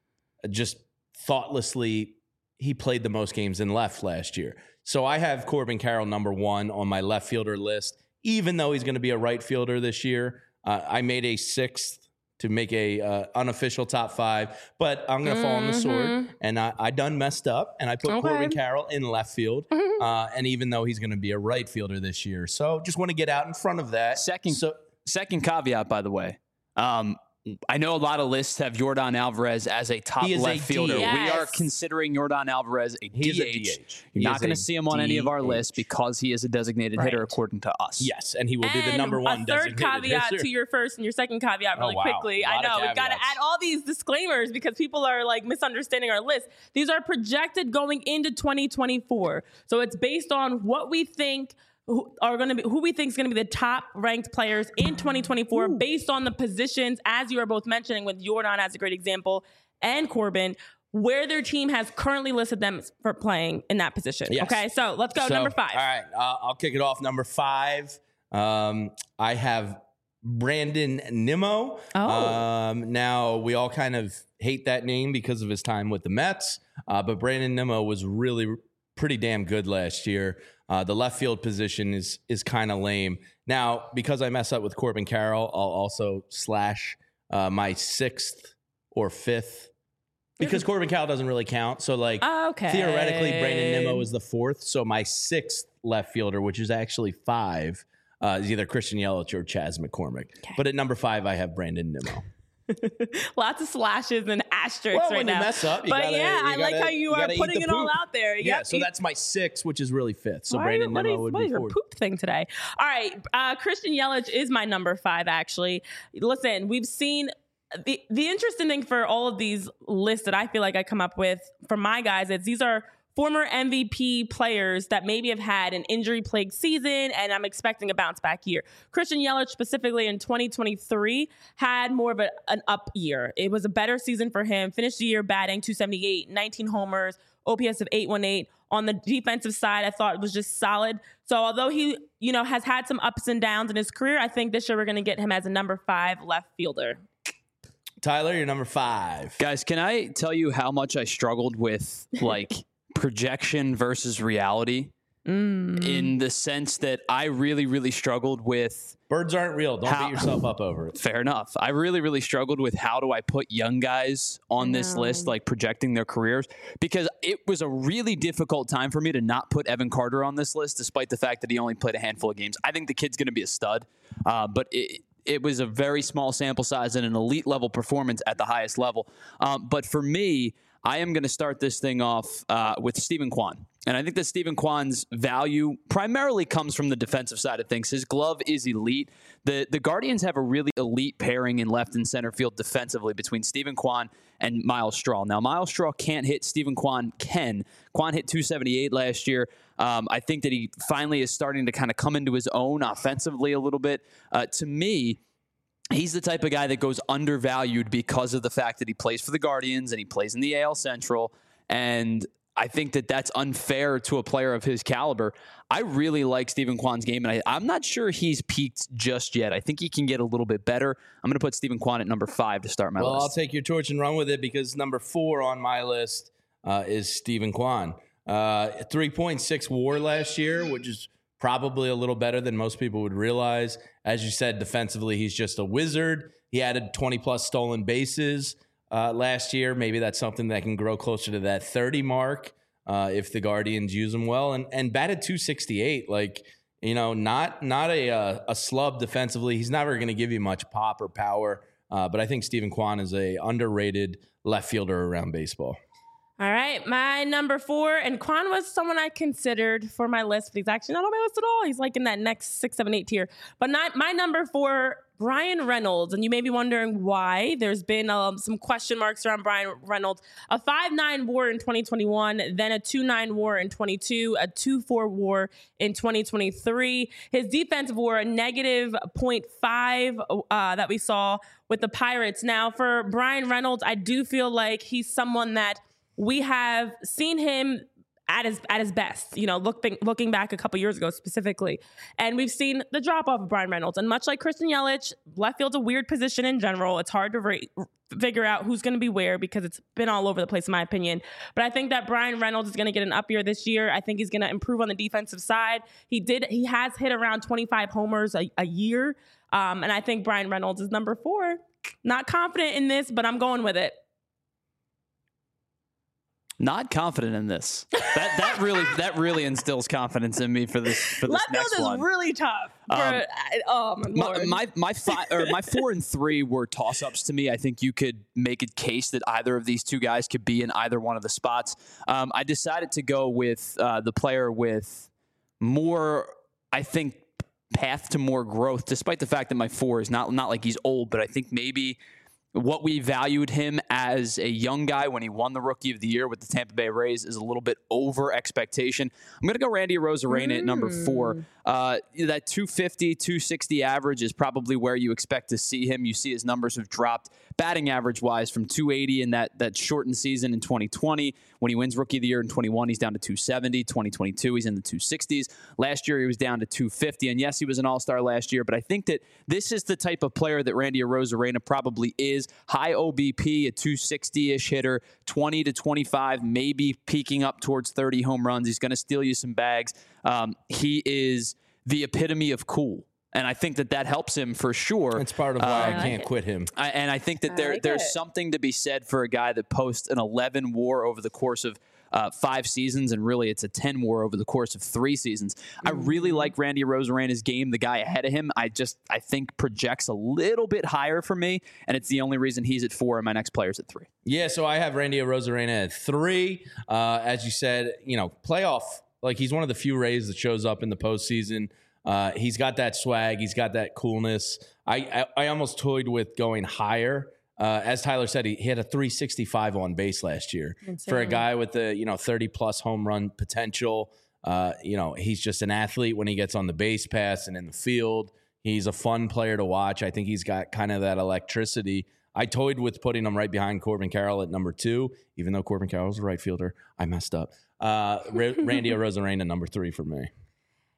just thoughtlessly, he played the most games in left last year. So I have Corbin Carroll number one on my left fielder list, even though he's going to be a right fielder this year. Uh, I made a sixth to make a uh, unofficial top five, but I'm going to fall on the sword, and I, I done messed up, and I put Okay. Corbin Carroll in left field, uh, and even though he's going to be a right fielder this year. So just want to get out in front of that. Second, So second caveat, by the way. Um, I know a lot of lists have Yordan Alvarez as a top He is left a fielder. D H. We are Yes. considering Yordan Alvarez a He's D a H. D H. You're He not is going to a see him on any of our D H. lists because he is a designated Right. hitter according to us. yes, and he will be the And number one a third designated caveat hitter. to your first and your second caveat really Oh, wow. quickly. A I lot of know we've got to caveats. add all these disclaimers because people are like misunderstanding our list. These are projected going into twenty twenty-four. So it's based on what we think who are going to be, who we think is going to be the top ranked players in twenty twenty-four based on the positions, as you are both mentioning with Yordan as a great example and Corbin, where their team has currently listed them for playing in that position. Yes. Okay, so let's go So, number five. All right, uh, I'll kick it off. Number five, um, I have Brandon Nimmo. Oh. Um, now, we all kind of hate that name because of his time with the Mets, uh, but Brandon Nimmo was really pretty damn good last year. Uh, the left field position is is kind of lame. Now, because I mess up with Corbin Carroll, I'll also slash uh, my sixth or fifth because Corbin Carroll doesn't really count. So, like, Okay. theoretically, Brandon Nimmo is the fourth. So my sixth left fielder, which is actually five, uh, is either Christian Yelich or Chas McCormick. But at number five, I have Brandon Nimmo. Lots of slashes and asterisks Well, right when you now. mess up, you but gotta- yeah, you I like gotta- how you, you are gotta eat putting the it all poop. out there. Yeah, Yep. so that's my six, which is really fifth. So Why- Brandon what Nimmo is, would what be is your fourth. poop thing today? All right, uh, Christian Yelich is my number five. Actually, listen, we've seen. The, the interesting thing for all of these lists that I feel like I come up with for my guys is these are former M V P players that maybe have had an injury-plagued season, and I'm expecting a bounce-back year. Christian Yelich, specifically in twenty twenty-three, had more of a, an up year. It was a better season for him. Finished the year batting two seventy-eight, nineteen homers, O P S of eight eighteen. On the defensive side, I thought it was just solid. So although he, you know, has had some ups and downs in his career, I think this year we're going to get him as a number five left fielder. Tyler, you're number five. Guys, can I tell you how much I struggled with like projection versus reality? Mm. in the sense that I really, really struggled with. Birds aren't real. Don't How- beat yourself up over it. Fair enough. I really, really struggled with how do I put young guys on this know. list, like projecting their careers, because it was a really difficult time for me to not put Evan Carter on this list, despite the fact that he only played a handful of games. I think the kid's going to be a stud, uh, but it, it was a very small sample size and an elite level performance at the highest level. Um, but for me, I am going to start this thing off uh, with Stephen Kwan. And I think that Stephen Kwan's value primarily comes from the defensive side of things. His glove is elite. The the Guardians have a really elite pairing in left and center field defensively between Stephen Kwan and Miles Straw. Now, Miles Straw can't hit. Stephen Kwan can. Kwan hit two seventy-eight last year. Um, I think that he finally is starting to kind of come into his own offensively a little bit. Uh, to me, he's the type of guy that goes undervalued because of the fact that he plays for the Guardians and he plays in the A L Central. And I think that that's unfair to a player of his caliber. I really like Stephen Kwan's game, and I, I'm not sure he's peaked just yet. I think he can get a little bit better. I'm going to put Stephen Kwan at number five to start my well, list. Well, I'll take your torch and run with it because number four on my list uh, is Stephen Kwan. Uh, three point six WAR last year, which is probably a little better than most people would realize. As you said, defensively, he's just a wizard. He added twenty plus stolen bases uh, last year. Maybe that's something that can grow closer to that thirty mark uh, if the Guardians use him well. And and batted two sixty-eight, like, you know, not not a a, a slub defensively. He's never going to give you much pop or power. Uh, but I think Stephen Kwan is a underrated left fielder around baseball. All right, my number four, and Kwan was someone I considered for my list, but he's actually not on my list at all. He's like in that next six, seven, eight tier. But not my number four, Brian Reynolds. And you may be wondering why. There's been um, some question marks around Brian Reynolds. A five nine WAR in twenty twenty-one, then a two nine WAR in twenty-two, a two four WAR in twenty twenty-three. His defensive WAR, a negative point five uh, that we saw with the Pirates. Now, for Brian Reynolds, I do feel like he's someone that we have seen him at his at his best, you know, looking looking back a couple years ago specifically. And we've seen the drop off of Brian Reynolds. And much like Christian Yelich, left field's a weird position in general. It's hard to re- figure out who's going to be where because it's been all over the place, in my opinion. But I think that Brian Reynolds is going to get an up year this year. I think he's going to improve on the defensive side. He did. He has hit around twenty-five homers a, a year. Um, and I think Brian Reynolds is number four. Not confident in this, but I'm going with it. Not confident in this. That that really that really instills confidence in me for this for this Left next field one. is really tough. For, Um, oh my My lord. my my, five, or my four and three were toss ups to me. I think you could make a case that either of these two guys could be in either one of the spots. Um, I decided to go with uh, the player with more, I think, path to more growth. Despite the fact that my four is not not like he's old, but I think maybe what we valued him as a young guy when he won the Rookie of the Year with the Tampa Bay Rays is a little bit over expectation. I'm going to go Randy Arozarena mm. at number four. Uh, that two fifty, two sixty average is probably where you expect to see him. You see his numbers have dropped batting average-wise from two eighty in that, that shortened season in twenty twenty. When he wins Rookie of the Year in twenty-one, he's down to two seventy. twenty twenty-two, he's in the two sixties. Last year, he was down to two fifty. And yes, he was an all-star last year, but I think that this is the type of player that Randy Arozarena probably is. High O B P, a two sixty-ish hitter, twenty to twenty-five, maybe peaking up towards thirty home runs. He's going to steal you some bags. Um, he is the epitome of cool. And I think that that helps him for sure. It's part of why um, I can't quit him. I, and I think that there like there's it. something to be said for a guy that posts an eleven WAR over the course of uh, five seasons, and really it's a ten WAR over the course of three seasons. Mm-hmm. I really like Randy Arozarena's game. The guy ahead of him, I just I think projects a little bit higher for me, and it's the only reason he's at four and my next player's at three. Yeah, so I have Randy Arozarena at three. Uh, as you said, you know, playoff, like he's one of the few Rays that shows up in the postseason. Uh, he's got that swag. He's got that coolness. I I, I almost toyed with going higher. Uh, as Tyler said, he, he had a three sixty-five on base last year. Insane. For a guy with the you know thirty plus home run potential. Uh, you know he's just an athlete when he gets on the base pass and in the field. He's a fun player to watch. I think he's got kind of that electricity. I toyed with putting him right behind Corbin Carroll at number two, even though Corbin Carroll's a right fielder. I messed up. Uh, Randy Arozarena number three for me.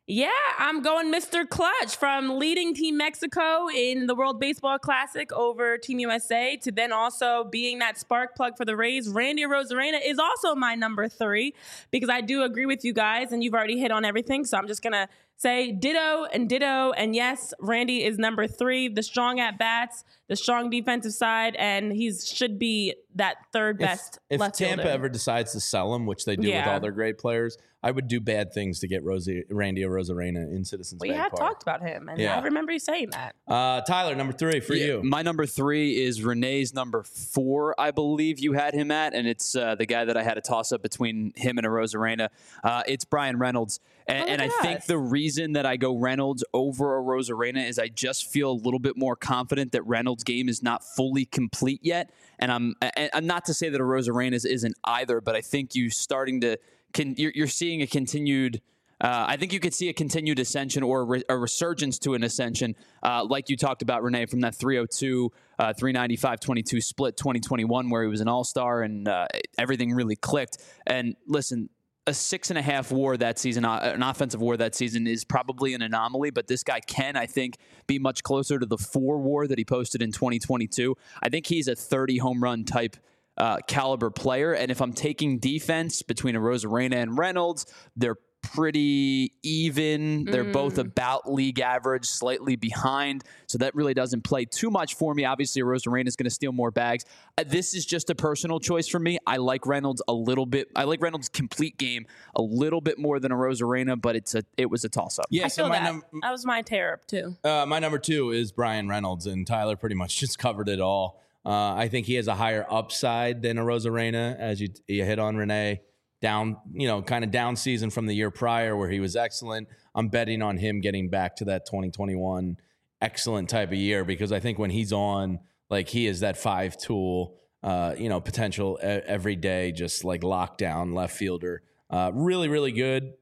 Yeah, I'm going Mister Clutch, from leading Team Mexico in the World Baseball Classic over Team U S A to then also being that spark plug for the Rays. Randy Arozarena is also my number three, because I do agree with you guys, and you've already hit on everything. So I'm just going to say ditto and ditto. And yes, Randy is number three, the strong at bats, the strong defensive side, and he should be that third best if, left If Tampa fielder. ever decides to sell him, which they do Yeah. with all their great players, I would do bad things to get Rosie, Randy Arozarena in Citizens We Bank have Park. talked about him, and Yeah. I remember you saying that. Uh, Tyler, number three for Yeah, you. My number three is Renee's number four, I believe you had him at, and it's uh, the guy that I had a toss-up between him and Arozarena. Uh, it's Brian Reynolds. And, Oh, and I look at think us. the reason that I go Reynolds over Arozarena is I just feel a little bit more confident that Reynolds' game is not fully complete yet. And I'm, and I'm not to say that Arozarena's isn't either, but I think you starting to can you're, you're seeing a continued. Uh, I think you could see a continued ascension or a, re- a resurgence to an ascension, uh, like you talked about, Renee, from that three oh two, uh, three ninety-five, twenty-two split twenty twenty-one, where he was an all-star and uh, everything really clicked. And listen, a six and a half WAR that season, uh, an offensive WAR that season, is probably an anomaly, but this guy can, I think, be much closer to the four WAR that he posted in twenty twenty-two. I think he's a thirty home run type uh, caliber player. And if I'm taking defense between Arozarena and Reynolds, they're pretty even. They're Mm. both about league average, slightly behind. So that really doesn't play too much for me. Obviously, Arozarena is going to steal more bags. Uh, this is just a personal choice for me. I like Reynolds a little bit. I like Reynolds' complete game a little bit more than Arozarena, but it's a it was a toss-up. Yeah, I so feel my, that. num- that was my tear up too. uh, my number two is Brian Reynolds, and Tyler pretty much just covered it all. Uh, I think he has a higher upside than Arozarena, as you, you hit on, Renee. Down, you know, kind of down season from the year prior where he was excellent. I'm betting on him getting back to that twenty twenty-one excellent type of year, because I think when he's on, like, he is that five tool, uh, you know, potential e- every day, just like lockdown left fielder. Uh, really, really good.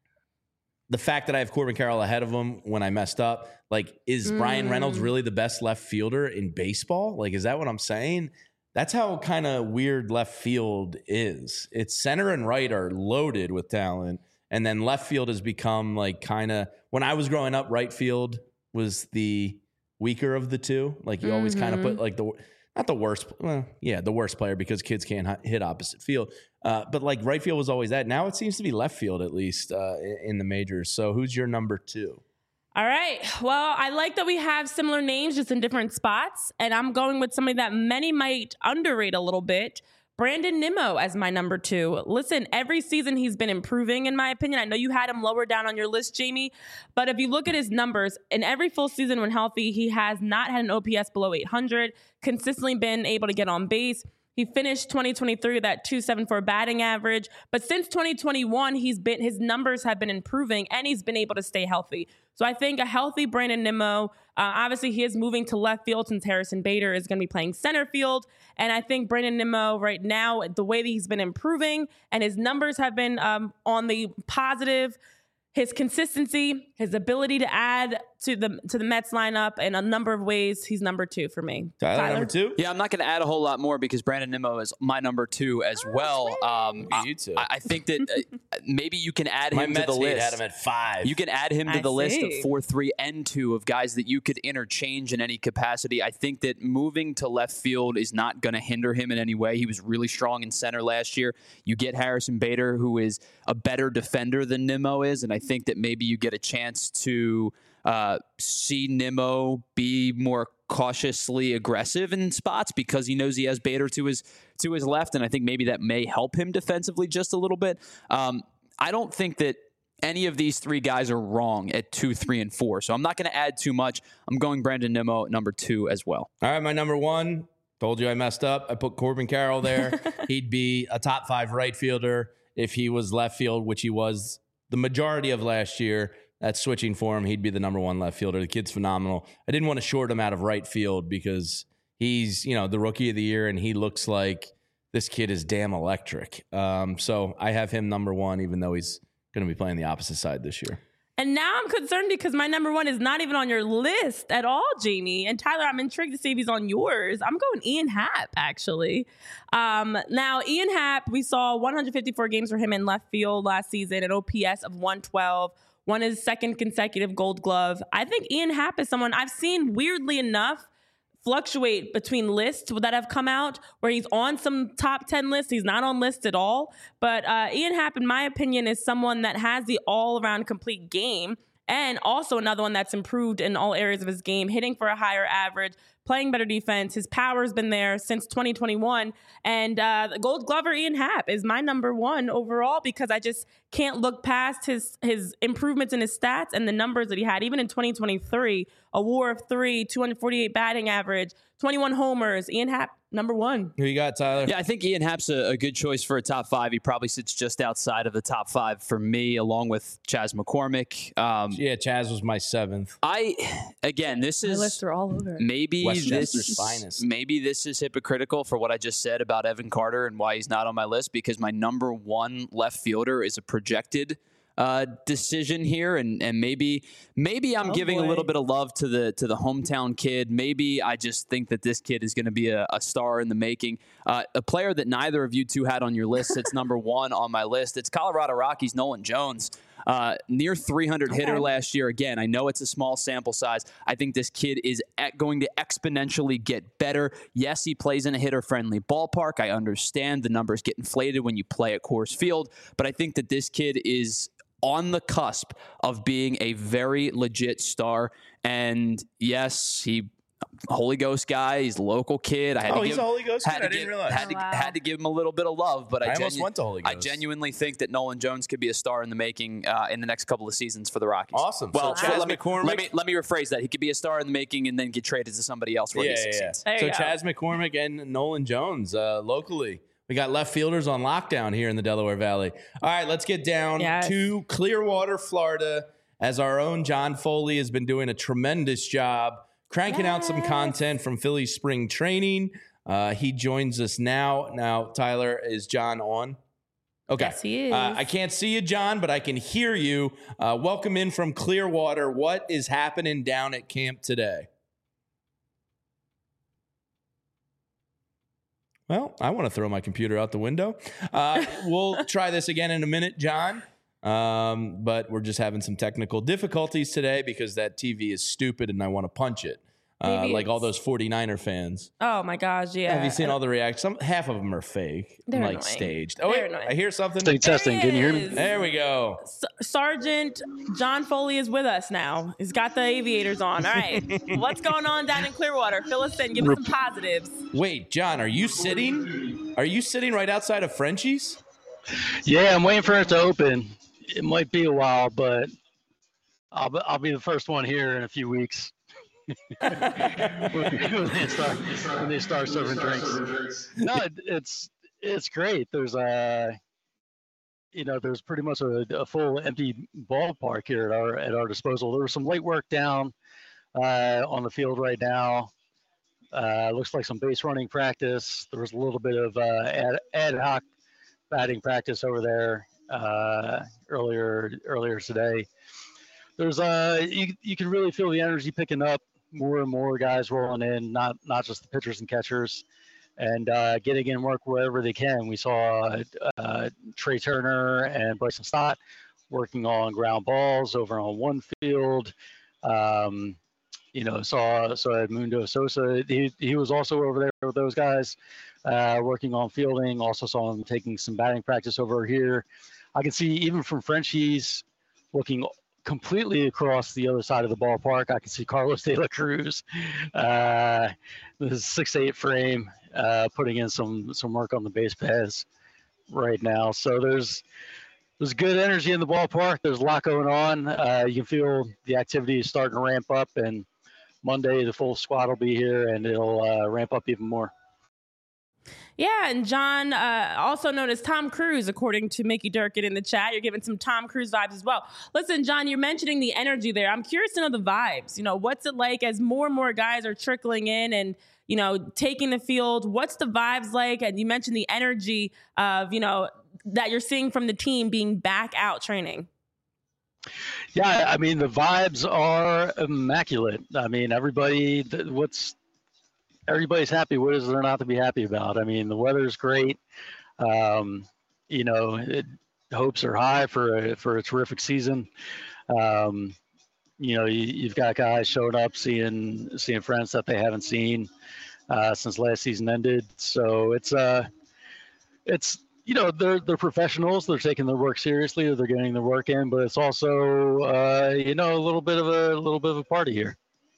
The fact that I have Corbin Carroll ahead of him when I messed up, like, is Mm. Brian Reynolds really the best left fielder in baseball? Like, is that what I'm saying? That's how kind of weird left field is. It's center and right are loaded with talent. And then left field has become like kind of, when I was growing up, right field was the weaker of the two. Like you always kind of put like the, not the worst, well, yeah, the worst player, because kids can't hi- hit opposite field. Uh, but like right field was always that. Now it seems to be left field, at least uh, in, in the majors. So who's your number two? All right. Well, I like that we have similar names, just in different spots. And I'm going with somebody that many might underrate a little bit. Brandon Nimmo as my number two. Listen, every season he's been improving, in my opinion. I know you had him lower down on your list, Jamie. But if you look at his numbers, in every full season when healthy, he has not had an O P S below eight hundred, consistently been able to get on base. He finished twenty twenty-three with that two seventy-four batting average. But since twenty twenty-one, he's been his numbers have been improving, and he's been able to stay healthy. So I think a healthy Brandon Nimmo, uh, obviously he is moving to left field since Harrison Bader is going to be playing center field. And I think Brandon Nimmo right now, the way that he's been improving and his numbers have been um, on the positive, his consistency, his ability to add to the to the Mets lineup in a number of ways, he's number two for me. Tyler, number two? Yeah, I'm not going to add a whole lot more because Brandon Nimmo is my number two as well. Um, Look at you two. I, I think that uh, maybe you can add My him to Mets the hate list. had him at five. You can add him to I the list of see. four, three, and two of guys that you could interchange in any capacity. I think that moving to left field is not going to hinder him in any way. He was really strong in center last year. You get Harrison Bader, who is a better defender than Nimmo is, and I think that maybe you get a chance to uh, see Nimmo be more cautiously aggressive in spots because he knows he has Bader to his to his left, and I think maybe that may help him defensively just a little bit. Um, I don't think that any of these three guys are wrong at two, three, and four, so I'm not going to add too much. I'm going Brandon Nimmo at number two as well. All right, my number one. Told you I messed up. I put Corbin Carroll there. He'd be a top five right fielder if he was left field, which he was the majority of last year. That's switching for him. He'd be the number one left fielder. The kid's phenomenal. I didn't want to short him out of right field because he's, you know, the rookie of the year, and he looks like this kid is damn electric. Um, so I have him number one, even though he's going to be playing the opposite side this year. And now I'm concerned because my number one is not even on your list at all, Jamie. And Tyler, I'm intrigued to see if he's on yours. I'm going Ian Happ, actually. Um, now, Ian Happ, we saw one hundred fifty-four games for him in left field last season, an O P S of one twelve, won his second consecutive Gold Glove. I think Ian Happ is someone I've seen, weirdly enough, fluctuate between lists that have come out where he's on some top ten lists. He's not on lists at all. But uh, Ian Happ, in my opinion, is someone that has the all-around complete game, and also another one that's improved in all areas of his game, hitting for a higher average, playing better defense. His power's been there since twenty twenty-one. And uh, the Gold Glover Ian Happ is my number one overall, because I just can't look past his his improvements in his stats and the numbers that he had. Even in twenty twenty-three, a war of three, two hundred forty-eight batting average, twenty-one homers. Ian Happ, number one. Who you got, Tyler? Yeah, I think Ian Happ's a, a good choice for a top five. He probably sits just outside of the top five for me, along with Chas McCormick. Um, yeah, Chas was my seventh. I, again, this is My lists are all over. maybe Westchester's this, finest. maybe this is hypocritical for what I just said about Evan Carter and why he's not on my list, because my number one left fielder is a projected uh, decision here, and and maybe maybe I'm Oh, giving boy. a little bit of love to the to the hometown kid. Maybe I just think that this kid is going to be a, a star in the making. Uh, a player that neither of you two had on your list sits number one on my list. It's Colorado Rockies' Nolan Jones. Uh, near three hundred hitter Okay. last year. Again, I know it's a small sample size. I think this kid is at going to exponentially get better. Yes, he plays in a hitter-friendly ballpark. I understand the numbers get inflated when you play at Coors Field, but I think that this kid is on the cusp of being a very legit star. And yes, he Holy Ghost guy. He's a local kid. I had Oh, to he's give, a Holy Ghost had kid? to I didn't give- realize. Had to, Oh, wow. had to give him a little bit of love, but I, I almost genu- went to Holy I Ghost. genuinely think that Nolan Jones could be a star in the making uh, in the next couple of seasons for the Rockies. Awesome. Well, So so Chas let, me, McCormick- let me let me rephrase that. He could be a star in the making and then get traded to somebody else where Yeah, he yeah, yeah. succeeds. There So you go. Chas McCormick and Nolan Jones uh, locally. We got left fielders on lockdown here in the Delaware Valley. All right, let's get down Yes. to Clearwater, Florida, as our own John Foley has been doing a tremendous job cranking out some Yes. content from Philly spring training. Uh, he joins us now. Now, Tyler, is John on? Okay. Yes, he is. Uh, I can't see you, John, but I can hear you. Uh, welcome in from Clearwater. What is happening down at camp today? Well, I want to throw my computer out the window. Uh, we'll try this again in a minute, John. Um, but we're just having some technical difficulties today because that T V is stupid and I want to punch it. Uh, Maybe like all it's- those forty-niner fans. Oh my gosh, yeah. Have you seen all the reactions? Some half of them are fake, They're like annoying. staged. Oh, They're wait, annoying. I hear something. State testing. Can you hear me? is. There we go. S- Sergeant John Foley is with us now. He's got the aviators on. All right. What's going on down in Clearwater? Fill us in. Give us some positives. Wait, John, are you sitting? Are you sitting right outside of Frenchie's? Yeah, I'm waiting for it to open. It might be a while, but I'll be, I'll be the first one here in a few weeks. when, they start, when they start serving drinks. No, it, it's it's great. There's a, you know, there's pretty much a, a full empty ballpark here at our at our disposal. There was some light work down uh, on the field right now. Uh, looks like some base running practice. There was a little bit of uh, ad, ad hoc batting practice over there uh, earlier earlier today. There's uh you you can really feel the energy picking up. More and more guys rolling in, not not just the pitchers and catchers, and uh, getting in work wherever they can. We saw uh, Trey Turner and Bryson Stott working on ground balls over on one field. Um, you know, saw saw Edmundo Sosa. He he was also over there with those guys, uh, working on fielding. Also saw him taking some batting practice over here. I can see even from Frenchie's looking completely across the other side of the ballpark. I can see Carlos De La Cruz, uh, the six eight frame, uh, putting in some some work on the base paths right now. So there's there's good energy in the ballpark. There's a lot going on. Uh, you can feel the activity is starting to ramp up, and Monday the full squad will be here, and it'll uh, ramp up even more. Yeah, and John, uh, also known as Tom Cruise, according to Mickey Durkin in the chat. You're giving some Tom Cruise vibes as well. Listen, John, you're mentioning the energy there. I'm curious to know the vibes. You know, what's it like as more and more guys are trickling in and, you know, taking the field? What's the vibes like? And you mentioned the energy of, you know, that you're seeing from the team being back out training. Yeah, I mean, the vibes are immaculate. I mean, everybody, what's everybody's happy. What is there not to be happy about? I mean, the weather's great. Um, you know, it, hopes are high for a, for a terrific season. Um, you know, you, you've got guys showing up, seeing seeing friends that they haven't seen uh, since last season ended. So it's uh, it's you know they're they're professionals. They're taking their work seriously, or they're getting their work in. But it's also uh, you know a little bit of a, a little bit of a party here.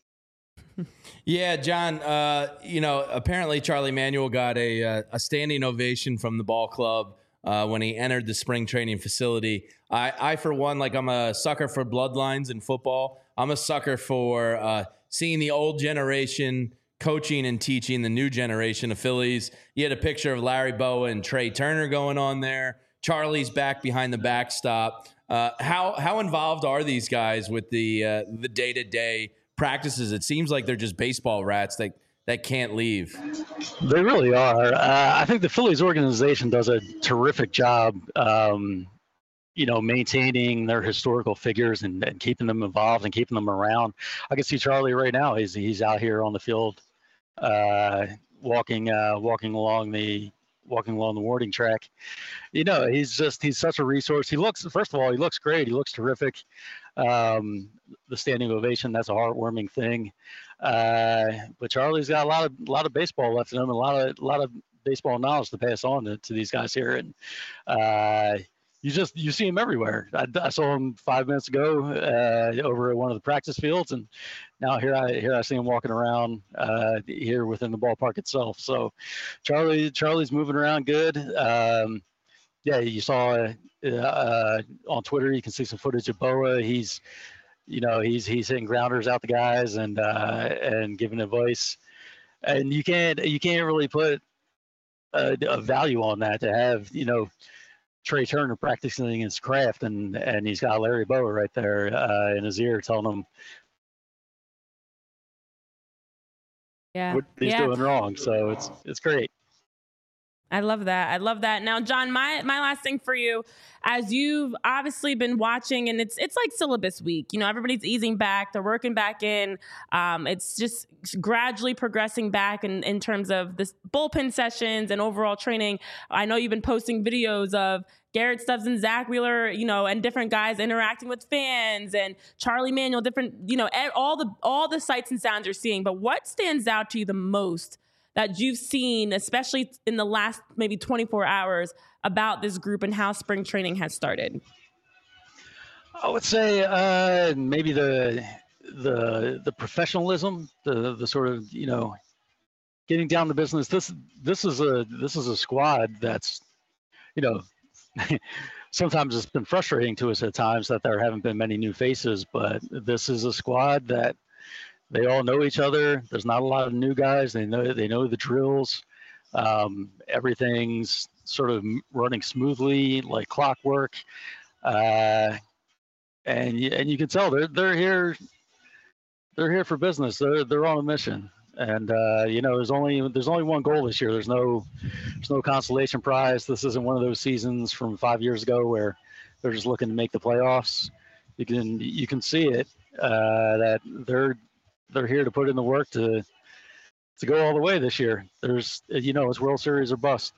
Yeah, John, uh, you know, apparently Charlie Manuel got a, uh, a standing ovation from the ball club uh, when he entered the spring training facility. I, I, for one, like I'm a sucker for bloodlines in football. I'm a sucker for uh, seeing the old generation coaching and teaching the new generation of Phillies. You had a picture of Larry Bowa and Trey Turner going on there. Charlie's back behind the backstop. Uh, how how involved are these guys with the uh, the day-to-day practices? It seems like they're just baseball rats that, that can't leave. They really are. Uh, I think the Phillies organization does a terrific job, um, you know, maintaining their historical figures and, and keeping them involved and keeping them around. I can see Charlie right now. He's he's out here on the field, uh, walking uh, walking along the walking along the warning track. You know, he's just he's such a resource. He looks first of all, he looks great. He looks terrific. Um, the standing ovation, that's a heartwarming thing. Uh, but Charlie's got a lot of a lot of baseball left in him, a lot of a lot of baseball knowledge to pass on to, to these guys here. And uh, you just you see him everywhere. I, I saw him five minutes ago uh, over at one of the practice fields, and now here I here I see him walking around uh, here within the ballpark itself. So Charlie Charlie's moving around good. Um, yeah, you saw uh, on Twitter, you can see some footage of Bowa. He's, you know, he's he's hitting grounders out the guys and uh, and giving advice. And you can't you can't really put a, a value on that to have, you know, Trey Turner practicing his craft and and he's got Larry Bowa right there uh, in his ear telling him yeah. what he's yeah. doing wrong. So it's it's great. I love that. I love that. Now, John, my my last thing for you, as you've obviously been watching, and it's it's like syllabus week. You know, everybody's easing back. They're working back in. Um, it's just gradually progressing back in, in terms of this bullpen sessions and overall training. I know you've been posting videos of Garrett Stubbs and Zach Wheeler, you know, and different guys interacting with fans and Charlie Manuel, different, you know, all the all the sights and sounds you're seeing. But what stands out to you the most that you've seen, especially in the last maybe twenty-four hours, about this group and how spring training has started? I would say uh, maybe the the the professionalism, the the sort of, you know, getting down to business. This this is a this is a squad that's, you know, sometimes it's been frustrating to us at times that there haven't been many new faces, but this is a squad that they all know each other. There's not a lot of new guys. They know they know the drills. Um, everything's sort of running smoothly, like clockwork. Uh, and and you can tell they're they're here. They're here for business. They're they're on a mission. And uh, you know, there's only there's only one goal this year. There's no there's no consolation prize. This isn't one of those seasons from five years ago where they're just looking to make the playoffs. You can you can see it uh, that they're they're here to put in the work to to go all the way this year. There's, you know, it's World Series or bust.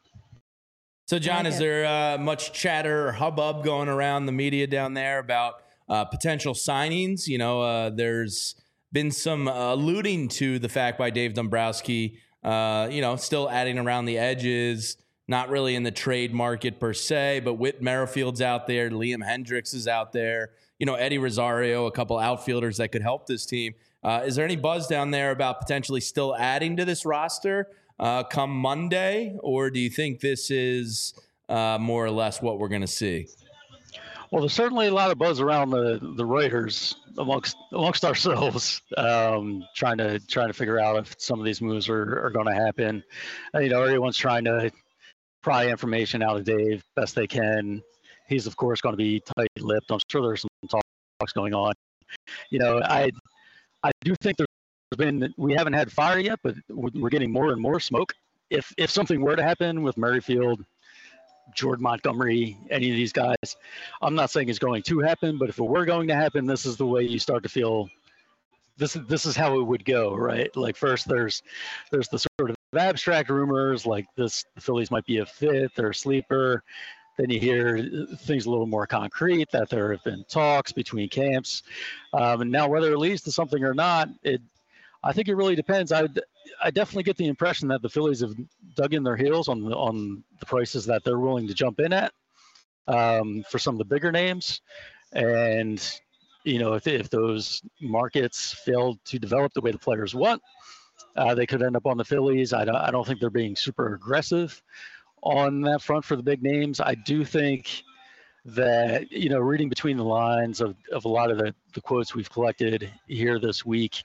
So, John, is there uh, much chatter or hubbub going around the media down there about uh, potential signings? You know, uh, there's been some uh, alluding to the fact by Dave Dombrowski, uh, you know, still adding around the edges, not really in the trade market per se, but Whit Merrifield's out there, Liam Hendricks is out there, you know, Eddie Rosario, a couple outfielders that could help this team. Uh, is there any buzz down there about potentially still adding to this roster uh, come Monday, or do you think this is uh, more or less what we're going to see? Well, there's certainly a lot of buzz around the, the writers amongst amongst ourselves, um, trying to trying to figure out if some of these moves are, are going to happen. Uh, you know, everyone's trying to pry information out of Dave best they can. He's of course going to be tight-lipped. I'm sure there's some talks going on. You know, I. I do think there's been, we haven't had fire yet, but we're getting more and more smoke. If if something were to happen with Merrifield, Jordan Montgomery, any of these guys, I'm not saying it's going to happen, but if it were going to happen, this is the way you start to feel. This is this is how it would go, right? Like first, there's there's the sort of abstract rumors, like this, the Phillies might be a fit, they're a sleeper. then you hear things a little more concrete, that there have been talks between camps. Um, and now whether it leads to something or not, it I think it really depends. I I definitely get the impression that the Phillies have dug in their heels on the, on the prices that they're willing to jump in at um, for some of the bigger names. And, you know, if, if those markets fail to develop the way the players want, uh, they could end up on the Phillies. I don't, I don't think they're being super aggressive on that front for the big names. I do think that, you know, reading between the lines of, of a lot of the, the quotes we've collected here this week,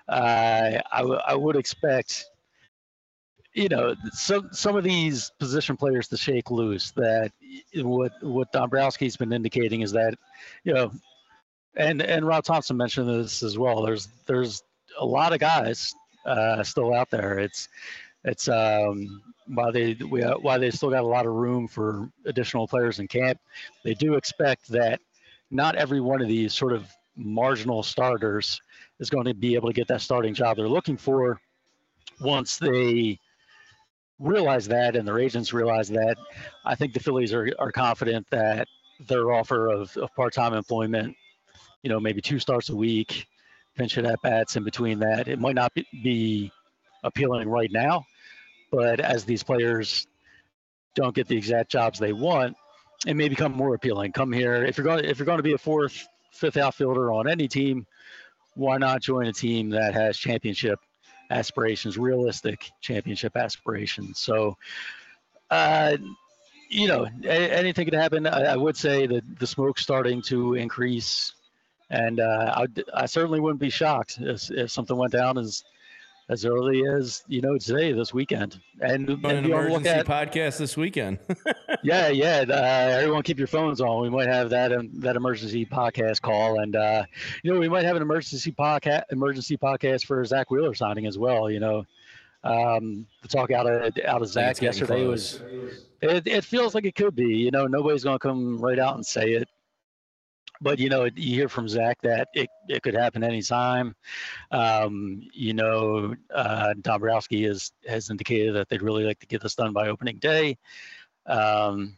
uh, I, w- I would expect, you know, some some of these position players to shake loose. That what what Dombrowski's been indicating is that, you know, and and Rob Thompson mentioned this as well. There's there's a lot of guys uh, still out there. It's it's um, while they we, while they still got a lot of room for additional players in camp, they do expect that not every one of these sort of marginal starters is going to be able to get that starting job they're looking for once they realize that and their agents realize that. I think the Phillies are, are confident that their offer of, of part-time employment, you know, maybe two starts a week, pinch hit at bats in between that, it might not be, be appealing right now, but as these players don't get the exact jobs they want, it may become more appealing. Come here. If you're going if you're going to be a fourth, fifth outfielder on any team, why not join a team that has championship aspirations, realistic championship aspirations? So, uh, you know, a- anything could happen. I, I would say that the smoke's starting to increase, and uh, I, I certainly wouldn't be shocked if, if something went down as as early as, you know, today, this weekend. And, On and an you wanna emergency look at, podcast this weekend. yeah, yeah. Uh, everyone keep your phones on. We might have that um, that emergency podcast call, and uh, you know, we might have an emergency podcast emergency podcast for Zach Wheeler signing as well. You know, um, the talk out of out of Zach yesterday was it, it feels like it could be. You know, nobody's going to come right out and say it, but you know, you hear from Zach that it, it could happen anytime. Um, you know, uh, Dombrowski has has indicated that they'd really like to get this done by opening day. Um,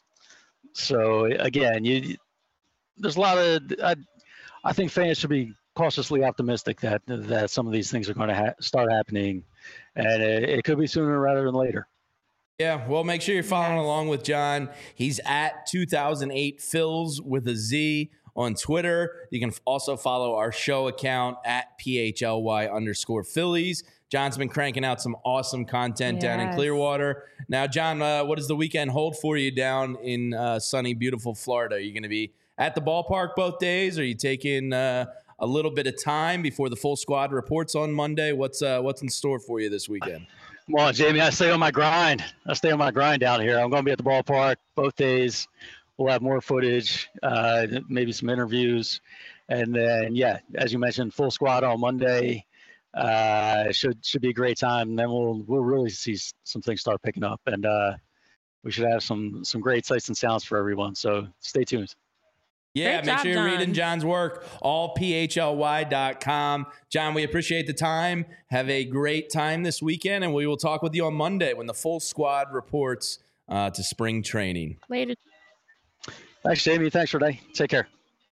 so again, you, there's a lot of, I, I think fans should be cautiously optimistic that, that some of these things are going to ha- start happening, and it, it could be sooner rather than later. Yeah, well, make sure you're following Yes. along with John. He's at two thousand eight Phils with a Z on Twitter. You can also follow our show account at P H L Y underscore Phillies. John's been cranking out some awesome content down in Yes. Clearwater. Now, John, uh, what does the weekend hold for you down in uh, sunny, beautiful Florida? Are you going to be at the ballpark both days? Are you taking uh, a little bit of time before the full squad reports on Monday? What's uh, what's in store for you this weekend? Come on, Jamie. I stay on my grind. I stay on my grind down here. I'm going to be at the ballpark both days. We'll have more footage, uh, maybe some interviews. And then, yeah, as you mentioned, full squad on Monday. Uh, should should be a great time. And then we'll we'll really see some things start picking up. And uh, we should have some some great sights and sounds for everyone. So stay tuned. Yeah, Great make job, sure you're John. reading John's work, all P H L Y dot com. John, we appreciate the time. Have a great time this weekend, and we will talk with you on Monday when the full squad reports uh, to spring training. Later. Thanks, Jamie. Thanks, Renee. Take care.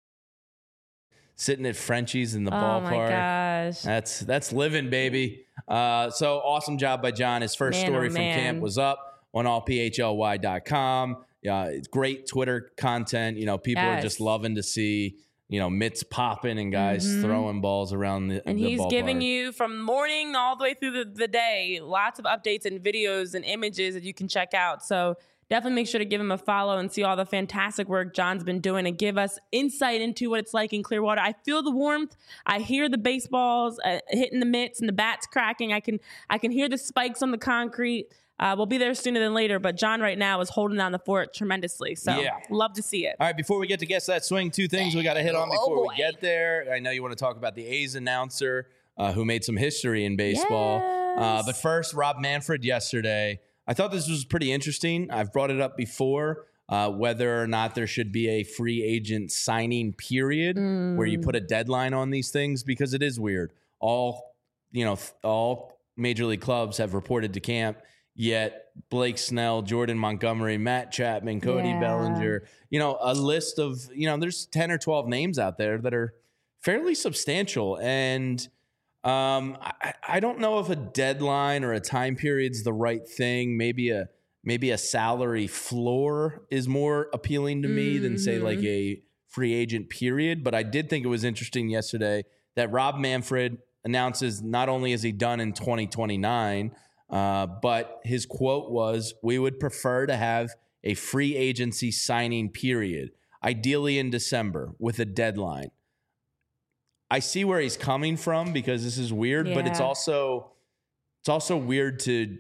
Sitting at Frenchie's in the Oh ballpark. my gosh. That's that's living, baby. Uh, so awesome job by John. His first Man, story oh, from man. camp was up on all P H L Y dot com. Yeah, it's great Twitter content. You know, people are Yes. just loving to see, you know, mitts popping and guys Mhm. throwing balls around the And the he's ballpark. giving you from morning all the way through the, the day lots of updates and videos and images that you can check out. So definitely make sure to give him a follow and see all the fantastic work John's been doing and give us insight into what it's like in Clearwater. I feel the warmth. I hear the baseballs uh, hitting the mitts and the bats cracking. I can I can hear the spikes on the concrete. Uh, we'll be there sooner than later, but John right now is holding down the fort tremendously. So Yeah. love to see it. All right, before we get to Guess That Swing, two things we got to hit on Oh, before we boy. get there. I know you want to talk about the A's announcer uh, who made some history in baseball. Uh, Yes. but first, Rob Manfred yesterday. I thought this was pretty interesting. I've brought it up before, uh, whether or not there should be a free agent signing period where you put a deadline on these things, because it is weird. All, you know, all major league clubs have reported to camp, Yet Blake Snell, Jordan Montgomery, Matt Chapman, Cody Yeah. Bellinger, you know, a list of, you know, there's ten or twelve names out there that are fairly substantial. And um, I, I don't know if a deadline or a time period's the right thing. Maybe a maybe a salary floor is more appealing to me mm-hmm. than say like a free agent period. But I did think it was interesting yesterday that Rob Manfred announces not only is he done in twenty twenty-nine, uh, but his quote was, "We would prefer to have a free agency signing period, ideally in December with a deadline." I see where he's coming from because this is weird, yeah. but it's also it's also weird to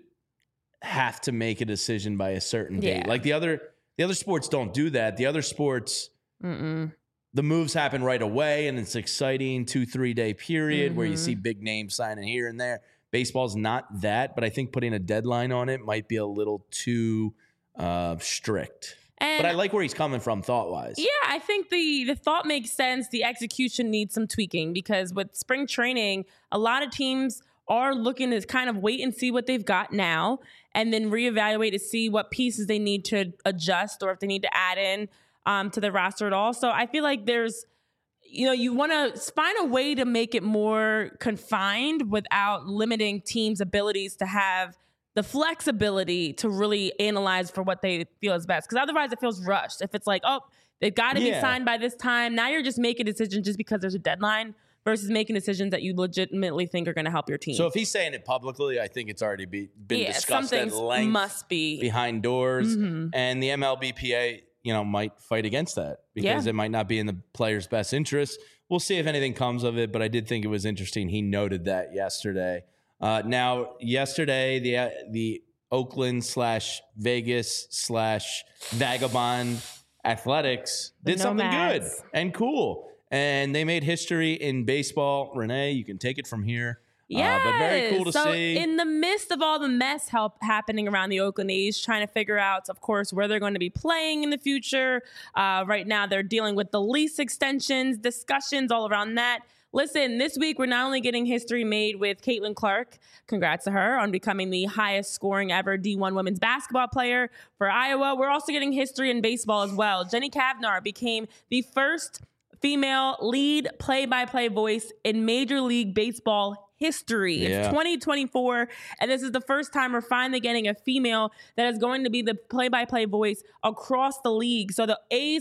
have to make a decision by a certain date. Yeah. Like the other the other sports don't do that. The other sports, Mm-mm. the moves happen right away, and it's exciting two three day period mm-hmm. where you see big names signing here and there. Baseball's not that, but I think putting a deadline on it might be a little too uh, strict. And but I like where he's coming from thought-wise. Yeah, I think the the thought makes sense. The execution needs some tweaking because with spring training, a lot of teams are looking to kind of wait and see what they've got now and then reevaluate to see what pieces they need to adjust or if they need to add in um, to the roster at all. So I feel like there's, you know, you want to find a way to make it more confined without limiting teams' abilities to have the flexibility to really analyze for what they feel is best. Because otherwise it feels rushed. If it's like, oh, they've got to yeah. be signed by this time. Now you're just making a decision just because there's a deadline versus making decisions that you legitimately think are going to help your team. So if he's saying it publicly, I think it's already be, been yeah, discussed at length. Must be behind doors. Mm-hmm. And the M L B P A, you know, might fight against that because yeah. it might not be in the player's best interest. We'll see if anything comes of it, but I did think it was interesting. He noted that yesterday. Uh, now, yesterday, the uh, the Oakland slash Vegas slash Vagabond Athletics did the something Nomads. good and cool. And they made history in baseball. Renee, you can take it from here. Yeah, uh, but very cool to so see. In the midst of all the mess help happening around the Oakland A's, trying to figure out, of course, where they're going to be playing in the future. Uh, right now, they're dealing with the lease extensions, discussions all around that. Listen, this week, we're not only getting history made with Caitlin Clark, congrats to her on becoming the highest scoring ever D one women's basketball player for Iowa. We're also getting history in baseball as well. Jenny Cavnar became the first female lead play-by-play voice in Major League Baseball history. Yeah. It's twenty twenty-four, and this is the first time we're finally getting a female that is going to be the play-by-play voice across the league. So the A's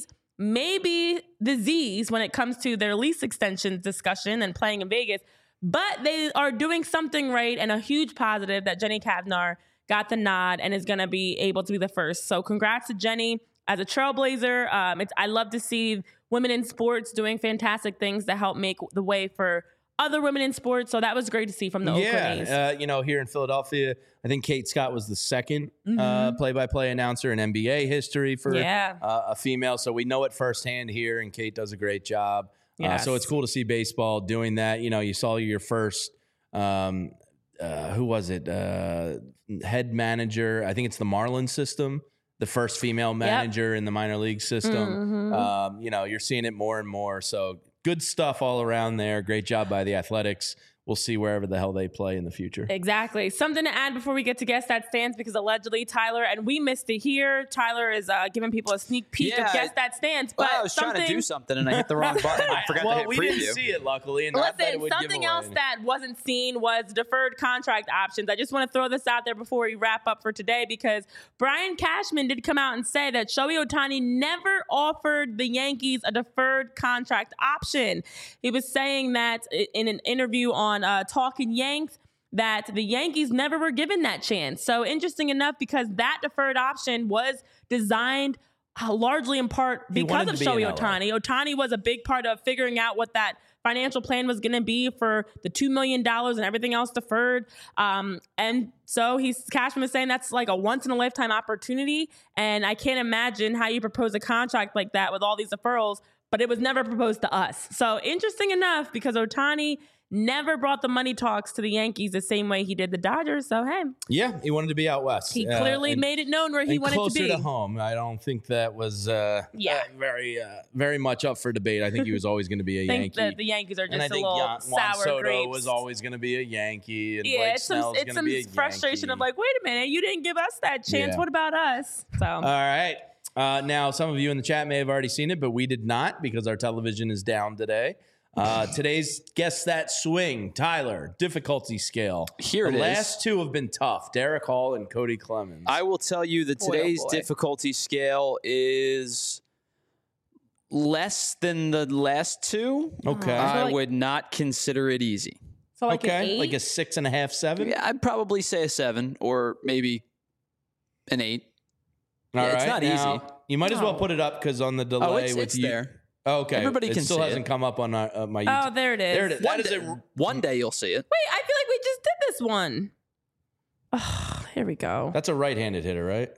maybe the Z's when it comes to their lease extensions discussion and playing in Vegas, but they are doing something right, and a huge positive that Jenny Cavnar got the nod and is going to be able to be the first. So congrats to Jenny as a trailblazer. Um, it's, I love to see women in sports doing fantastic things to help make the way for other women in sports. So that was great to see from the yeah, Oakland A's. Uh, you know, here in Philadelphia, I think Kate Scott was the second Mm-hmm. uh, play-by-play announcer in N B A history for Yeah. uh, a female. So we know it firsthand here, and Kate does a great job. Yes. Uh, so it's cool to see baseball doing that. You know, you saw your first, um, uh, who was it? Uh, head manager. I think it's the Marlins system. The first female manager yep. in the minor league system. Mm-hmm. Um, you know, you're seeing it more and more. So good stuff all around there. Great job by the Athletics. We'll see wherever the hell they play in the future. Exactly. Something to add before we get to Guess That Stands, because allegedly Tyler, and we missed it here, Tyler is uh, giving people a sneak peek yeah, of Guess That Stands. But well, I was trying to do something and I hit the wrong button. I forgot well, to hit we preview. didn't see it, luckily. And Listen, something else that wasn't seen was deferred contract options. I just want to throw this out there before we wrap up for today, because Brian Cashman did come out and say that Shohei Ohtani never offered the Yankees a deferred contract option. He was saying that in an interview on uh, Talking Yanks, that the Yankees never were given that chance. So interesting enough, because that deferred option was designed uh, largely in part because of Shohei Ohtani. Ohtani was a big part of figuring out what that financial plan was going to be for the two million dollars and everything else deferred. Um, and so he's Cashman is saying that's like a once in a lifetime opportunity. And I can't imagine how you propose a contract like that with all these deferrals, but it was never proposed to us. So interesting enough, because Ohtani never brought the money talks to the Yankees the same way he did the Dodgers. So, hey. Yeah, he wanted to be out west. He uh, clearly and, made it known where he and wanted closer to be. to home. I don't think that was uh, Yeah. uh, very uh, very much up for debate. I think he was always going to be a I think Yankee. that the Yankees are and I just a think little Juan, Juan sour Soto grapes. was always going to be a Yankee. And yeah, Blake it's some, Snell's it's going to some be a frustration Yankee. of like, wait a minute, you didn't give us that chance. Yeah. What about us? So, All right. Uh, now, some of you in the chat may have already seen it, but we did not because our television is down today. Uh, today's Guess That Swing, Tyler, difficulty scale. Here the it is. last two have been tough. Derek Hall and Cody Clemens. I will tell you that Boy, oh today's boy. difficulty scale is less than the last two. okay. Uh, I like- would not consider it easy. so like an okay. eight? Like a six and a half, seven. Yeah, I'd probably say a seven or maybe an eight. All Yeah, right. it's not now, easy. You might as well No. put it up because on the delay Oh, it's, with it's you. there. Oh, okay. Everybody it can still see hasn't it. come up on our, uh, my YouTube. Oh, there it is. There it is. One That is day, it. one day you'll see it. Wait, I feel like we just did this one. Oh, here we go. That's a right-handed hitter, right?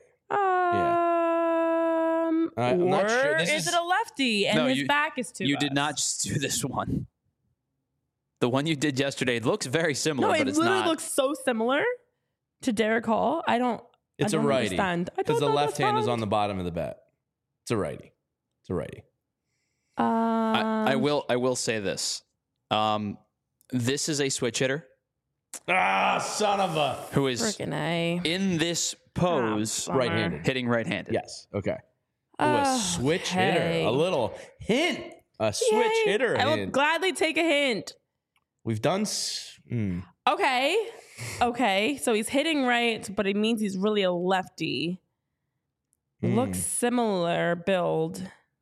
Um, Uh, I'm or not sure. This is, is- it a lefty and No, his you- back is to You us? did not just do this one. The one you did yesterday looks very similar, No, but it it's literally not. looks so similar to Derek Hall. I don't. It's I a don't righty understand. I because don't the left hand is understand. on the bottom of the bat. It's a righty. It's a righty. Um, I, I will. I will say this. Um, this is a switch hitter Ah, son of a. who is Freaking A. in this pose Bummer. Right-handed. hitting right-handed. Yes. Okay. Ooh, a switch hitter. Okay. A little hint. A switch Yay. hitter I will hint. gladly take a hint. We've done. S- mm. Okay. Okay. So he's hitting right, but it means he's really a lefty. Hmm. Looks similar build.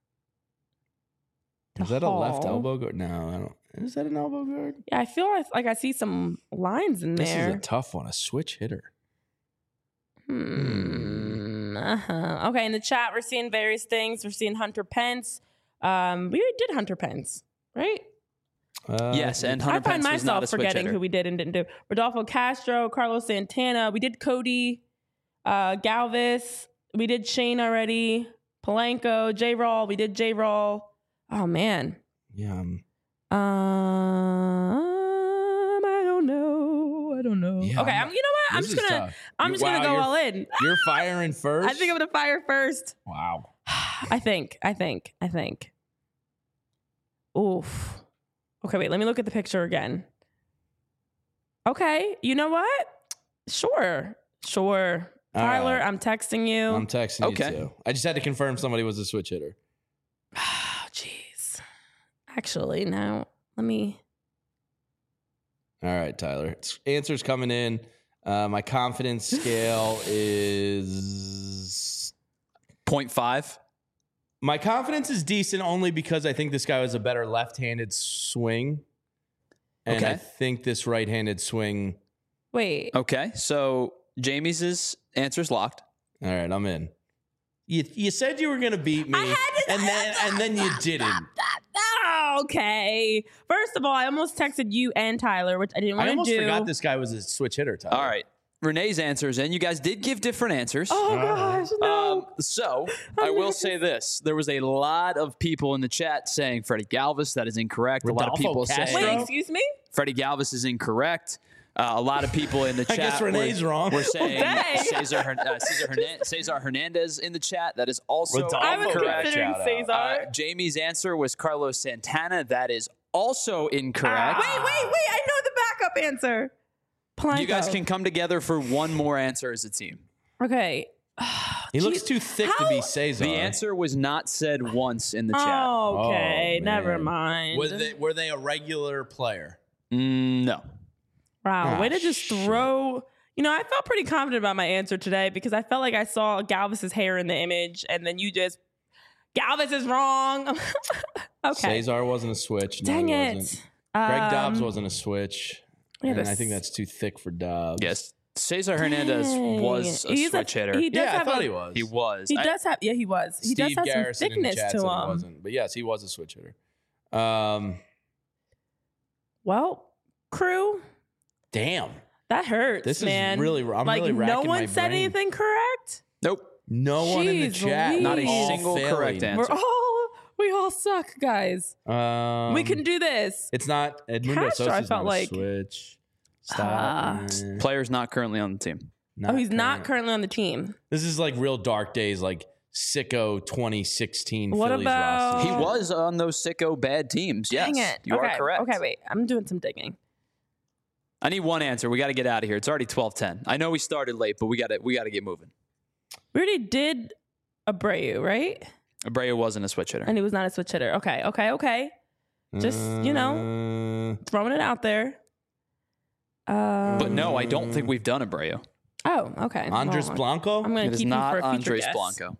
to Is that a left Hall. elbow guard? No, I don't. Is that an elbow guard? Yeah, I feel like, like I see some lines in This there. is a tough one. A switch hitter. Hmm. Uh-huh. Okay, in the chat, we're seeing various things. We're seeing Hunter Pence. Um, we did Hunter Pence, right? Uh, Yes, and Hunter I find Pence was not a myself switch forgetting hitter. who we did and didn't do. Rodolfo Castro, Carlos Santana. We did Cody, uh, Galvis. We did Shane already. Polanco, J. Rawl. We did J. Rawl. Oh man. Yeah. um, Um, I don't know. I don't know. Yeah, okay, I'm- I'm. You know what? I'm this just is gonna. tough. I'm You- just gonna wow, go you're- all in. You're firing first. I think I'm gonna fire first. Wow. I think. I think. I think. Oof. Okay, wait. Let me look at the picture again. Okay. You know what? Sure. Sure. All Tyler, right. I'm texting you. I'm texting Okay. you too. I just had to confirm somebody was a switch hitter. Oh, jeez. Actually, now let me. All right, Tyler. It's- Answers coming in. Uh, my confidence scale is. Point five. My confidence is decent only because I think this guy was a better left-handed swing, and I Okay. think this right-handed swing. Wait. Okay, so Jamie's answer's locked. All right, I'm in. You you said you were gonna beat me, I had to- and then and then you didn't. Oh, okay. First of all, I almost texted you and Tyler, which I didn't I want to almost do. forgot this guy was a switch hitter. Tyler. All right, Renee's answers, and you guys did give different answers. Oh gosh, no. Um, so I will say this: there was a lot of people in the chat saying Freddie Galvis. That is incorrect. a lot of Rodolfo people Castro? saying Wait, excuse me? Freddie Galvis is incorrect. Uh, a lot of people in the I chat guess were, Renee's wrong. were saying dang. Cesar, Hern- uh, Cesar, Hernan- Cesar Hernandez in the chat. That is also Rodolfo I was incorrect. considering Shout out. Cesar. Uh, Jamie's answer was Carlos Santana. That is also incorrect. wait, wait, wait. I know the backup answer. Polanco. You guys can come together for one more answer as a team. Okay. He looks Jeez. too thick to How- be Cesar. The answer was not said once in the chat. Oh, okay. Oh, Never man. mind. Were they, were they a regular player? Mm, no. Wow. Ah, way to just shit. throw. You know, I felt pretty confident about my answer today because I felt like I saw Galvis's hair in the image, and then you just Galvis is wrong. Okay. Cesar wasn't a switch. No, Dang he it. wasn't. Greg Dobbs Um, wasn't a switch. yeah, and I this- think that's too thick for Dobbs. Yes. Cesar Hernandez Dang. was a He's switch hitter. He does Yeah, I have thought a, he was. He was. He I- does have. Yeah, he was. He does Steve have Garrison some in the thickness chat to said he him. wasn't. But yes, he was a switch hitter. Um, Well, crew, damn. that hurts, This is man. really- I'm like really no racking one my said brain. anything correct. Nope. No one in the Jeez chat. Louise. Not a all single failing. correct answer. We're all We all suck, guys. Um, we can do this. It's not Edmundo Castro, I Sosa's felt not a like- switch. Stop. Ah. Eh, Player's not currently on the team. oh, he's not current. currently on the team. This is like real dark days, like sicko twenty sixteen What Phillies about- roster. He was on those sicko bad teams. Yes, Dang it. you okay. are correct. Okay, wait. I'm doing some digging. I need one answer. We got to get out of here. It's already twelve ten. I know we started late, but we got to we got to get moving. We already did Abreu, right? Abreu wasn't a switch hitter. And he was not a switch hitter. Okay, okay, okay. Just, you know, Uh, throwing it out there. Um, But no, I don't think we've done Abreu. Oh, okay. Andres Well, Blanco. I'm going It to is keep not him for a future Andres guess. Blanco.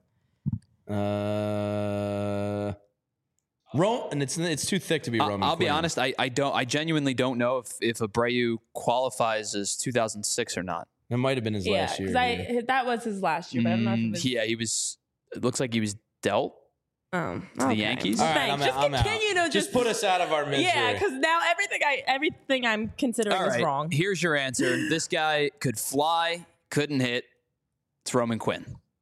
Uh, Ro- and it's it's too thick to be I'll, Roman. I'll be Quinn. honest. I, I don't. I genuinely don't know if if Abreu qualifies as two thousand six or not. It might have been his Yeah, last year. because I yeah. that was his last year, but I don't know if it Mm, was. yeah, he was. It looks like he was dealt. Oh, the okay. Yankees? Well, All right, thanks. I'm just out, I'm out. continue to Just just, put us out of our misery. Yeah, because now everything I everything I'm considering All is right, wrong. here's your answer. This guy could fly, couldn't hit. It's Roman Quinn.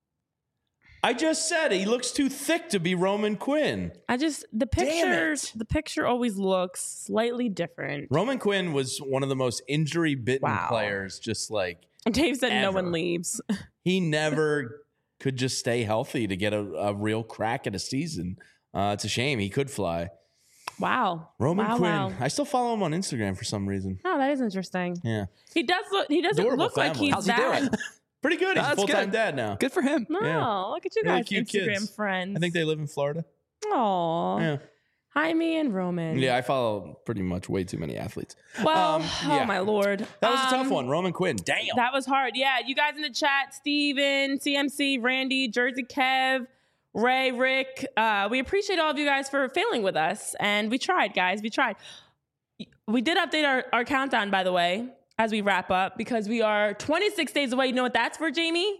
I just said he looks too thick to be Roman Quinn. I just the Damn pictures it. the picture always looks slightly different. Roman Quinn was one of the most injury-bitten Wow. players. Just like Dave said no Ever. one leaves. he never could just stay healthy to get a, a real crack at a season. Uh, it's a shame. He could fly. Wow. Roman wow, Quinn. Wow. I still follow him on Instagram for some reason. Oh, that is interesting. Yeah, He does look he doesn't Adorable look like family. he's How's he that. doing? pretty good. He's a That's full-time good. dad now. Good for him. No, Yeah. look at you Really guys, cute Instagram kids. friends. I think they live in Florida. Aw. Yeah, Jaime and Roman. yeah. I follow pretty much way too many athletes. Well, Um, yeah. oh my lord. That was a tough Um, one. Roman Quinn. Damn. That was hard. Yeah, you guys in the chat, Steven, C M C, Randy, Jersey Kev, Ray, Rick. Uh, we appreciate all of you guys for failing with us. And we tried, guys. We tried. We did update our, our countdown, by the way, as we wrap up, because we are twenty-six days away. You know what that's for, Jamie?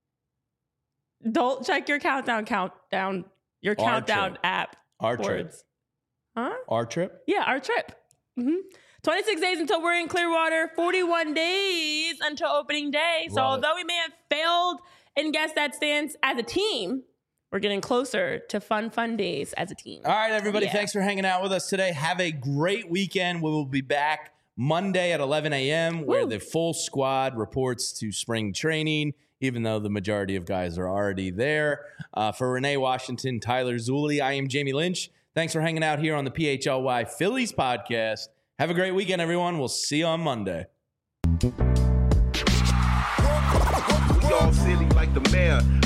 Don't check your countdown, countdown, your Our countdown trip. app. Our trip. Words. Huh? Our trip. Yeah, our trip. hmm twenty-six days until we're in Clearwater, forty-one days until opening day. So Love it. although we may have failed in Guess That Stance as a team, we're getting closer to fun, fun days as a team. All right, everybody. Yeah. Thanks for hanging out with us today. Have a great weekend. We will be back Monday at eleven a.m. where Woo. the full squad reports to spring training, even though the majority of guys are already there. Uh, for Renee Washington, Tyler Zulli, I am Jamie Lynch. Thanks for hanging out here on the P H L Y Phillies podcast. Have a great weekend, everyone. We'll see you on Monday. We all silly like the mayor.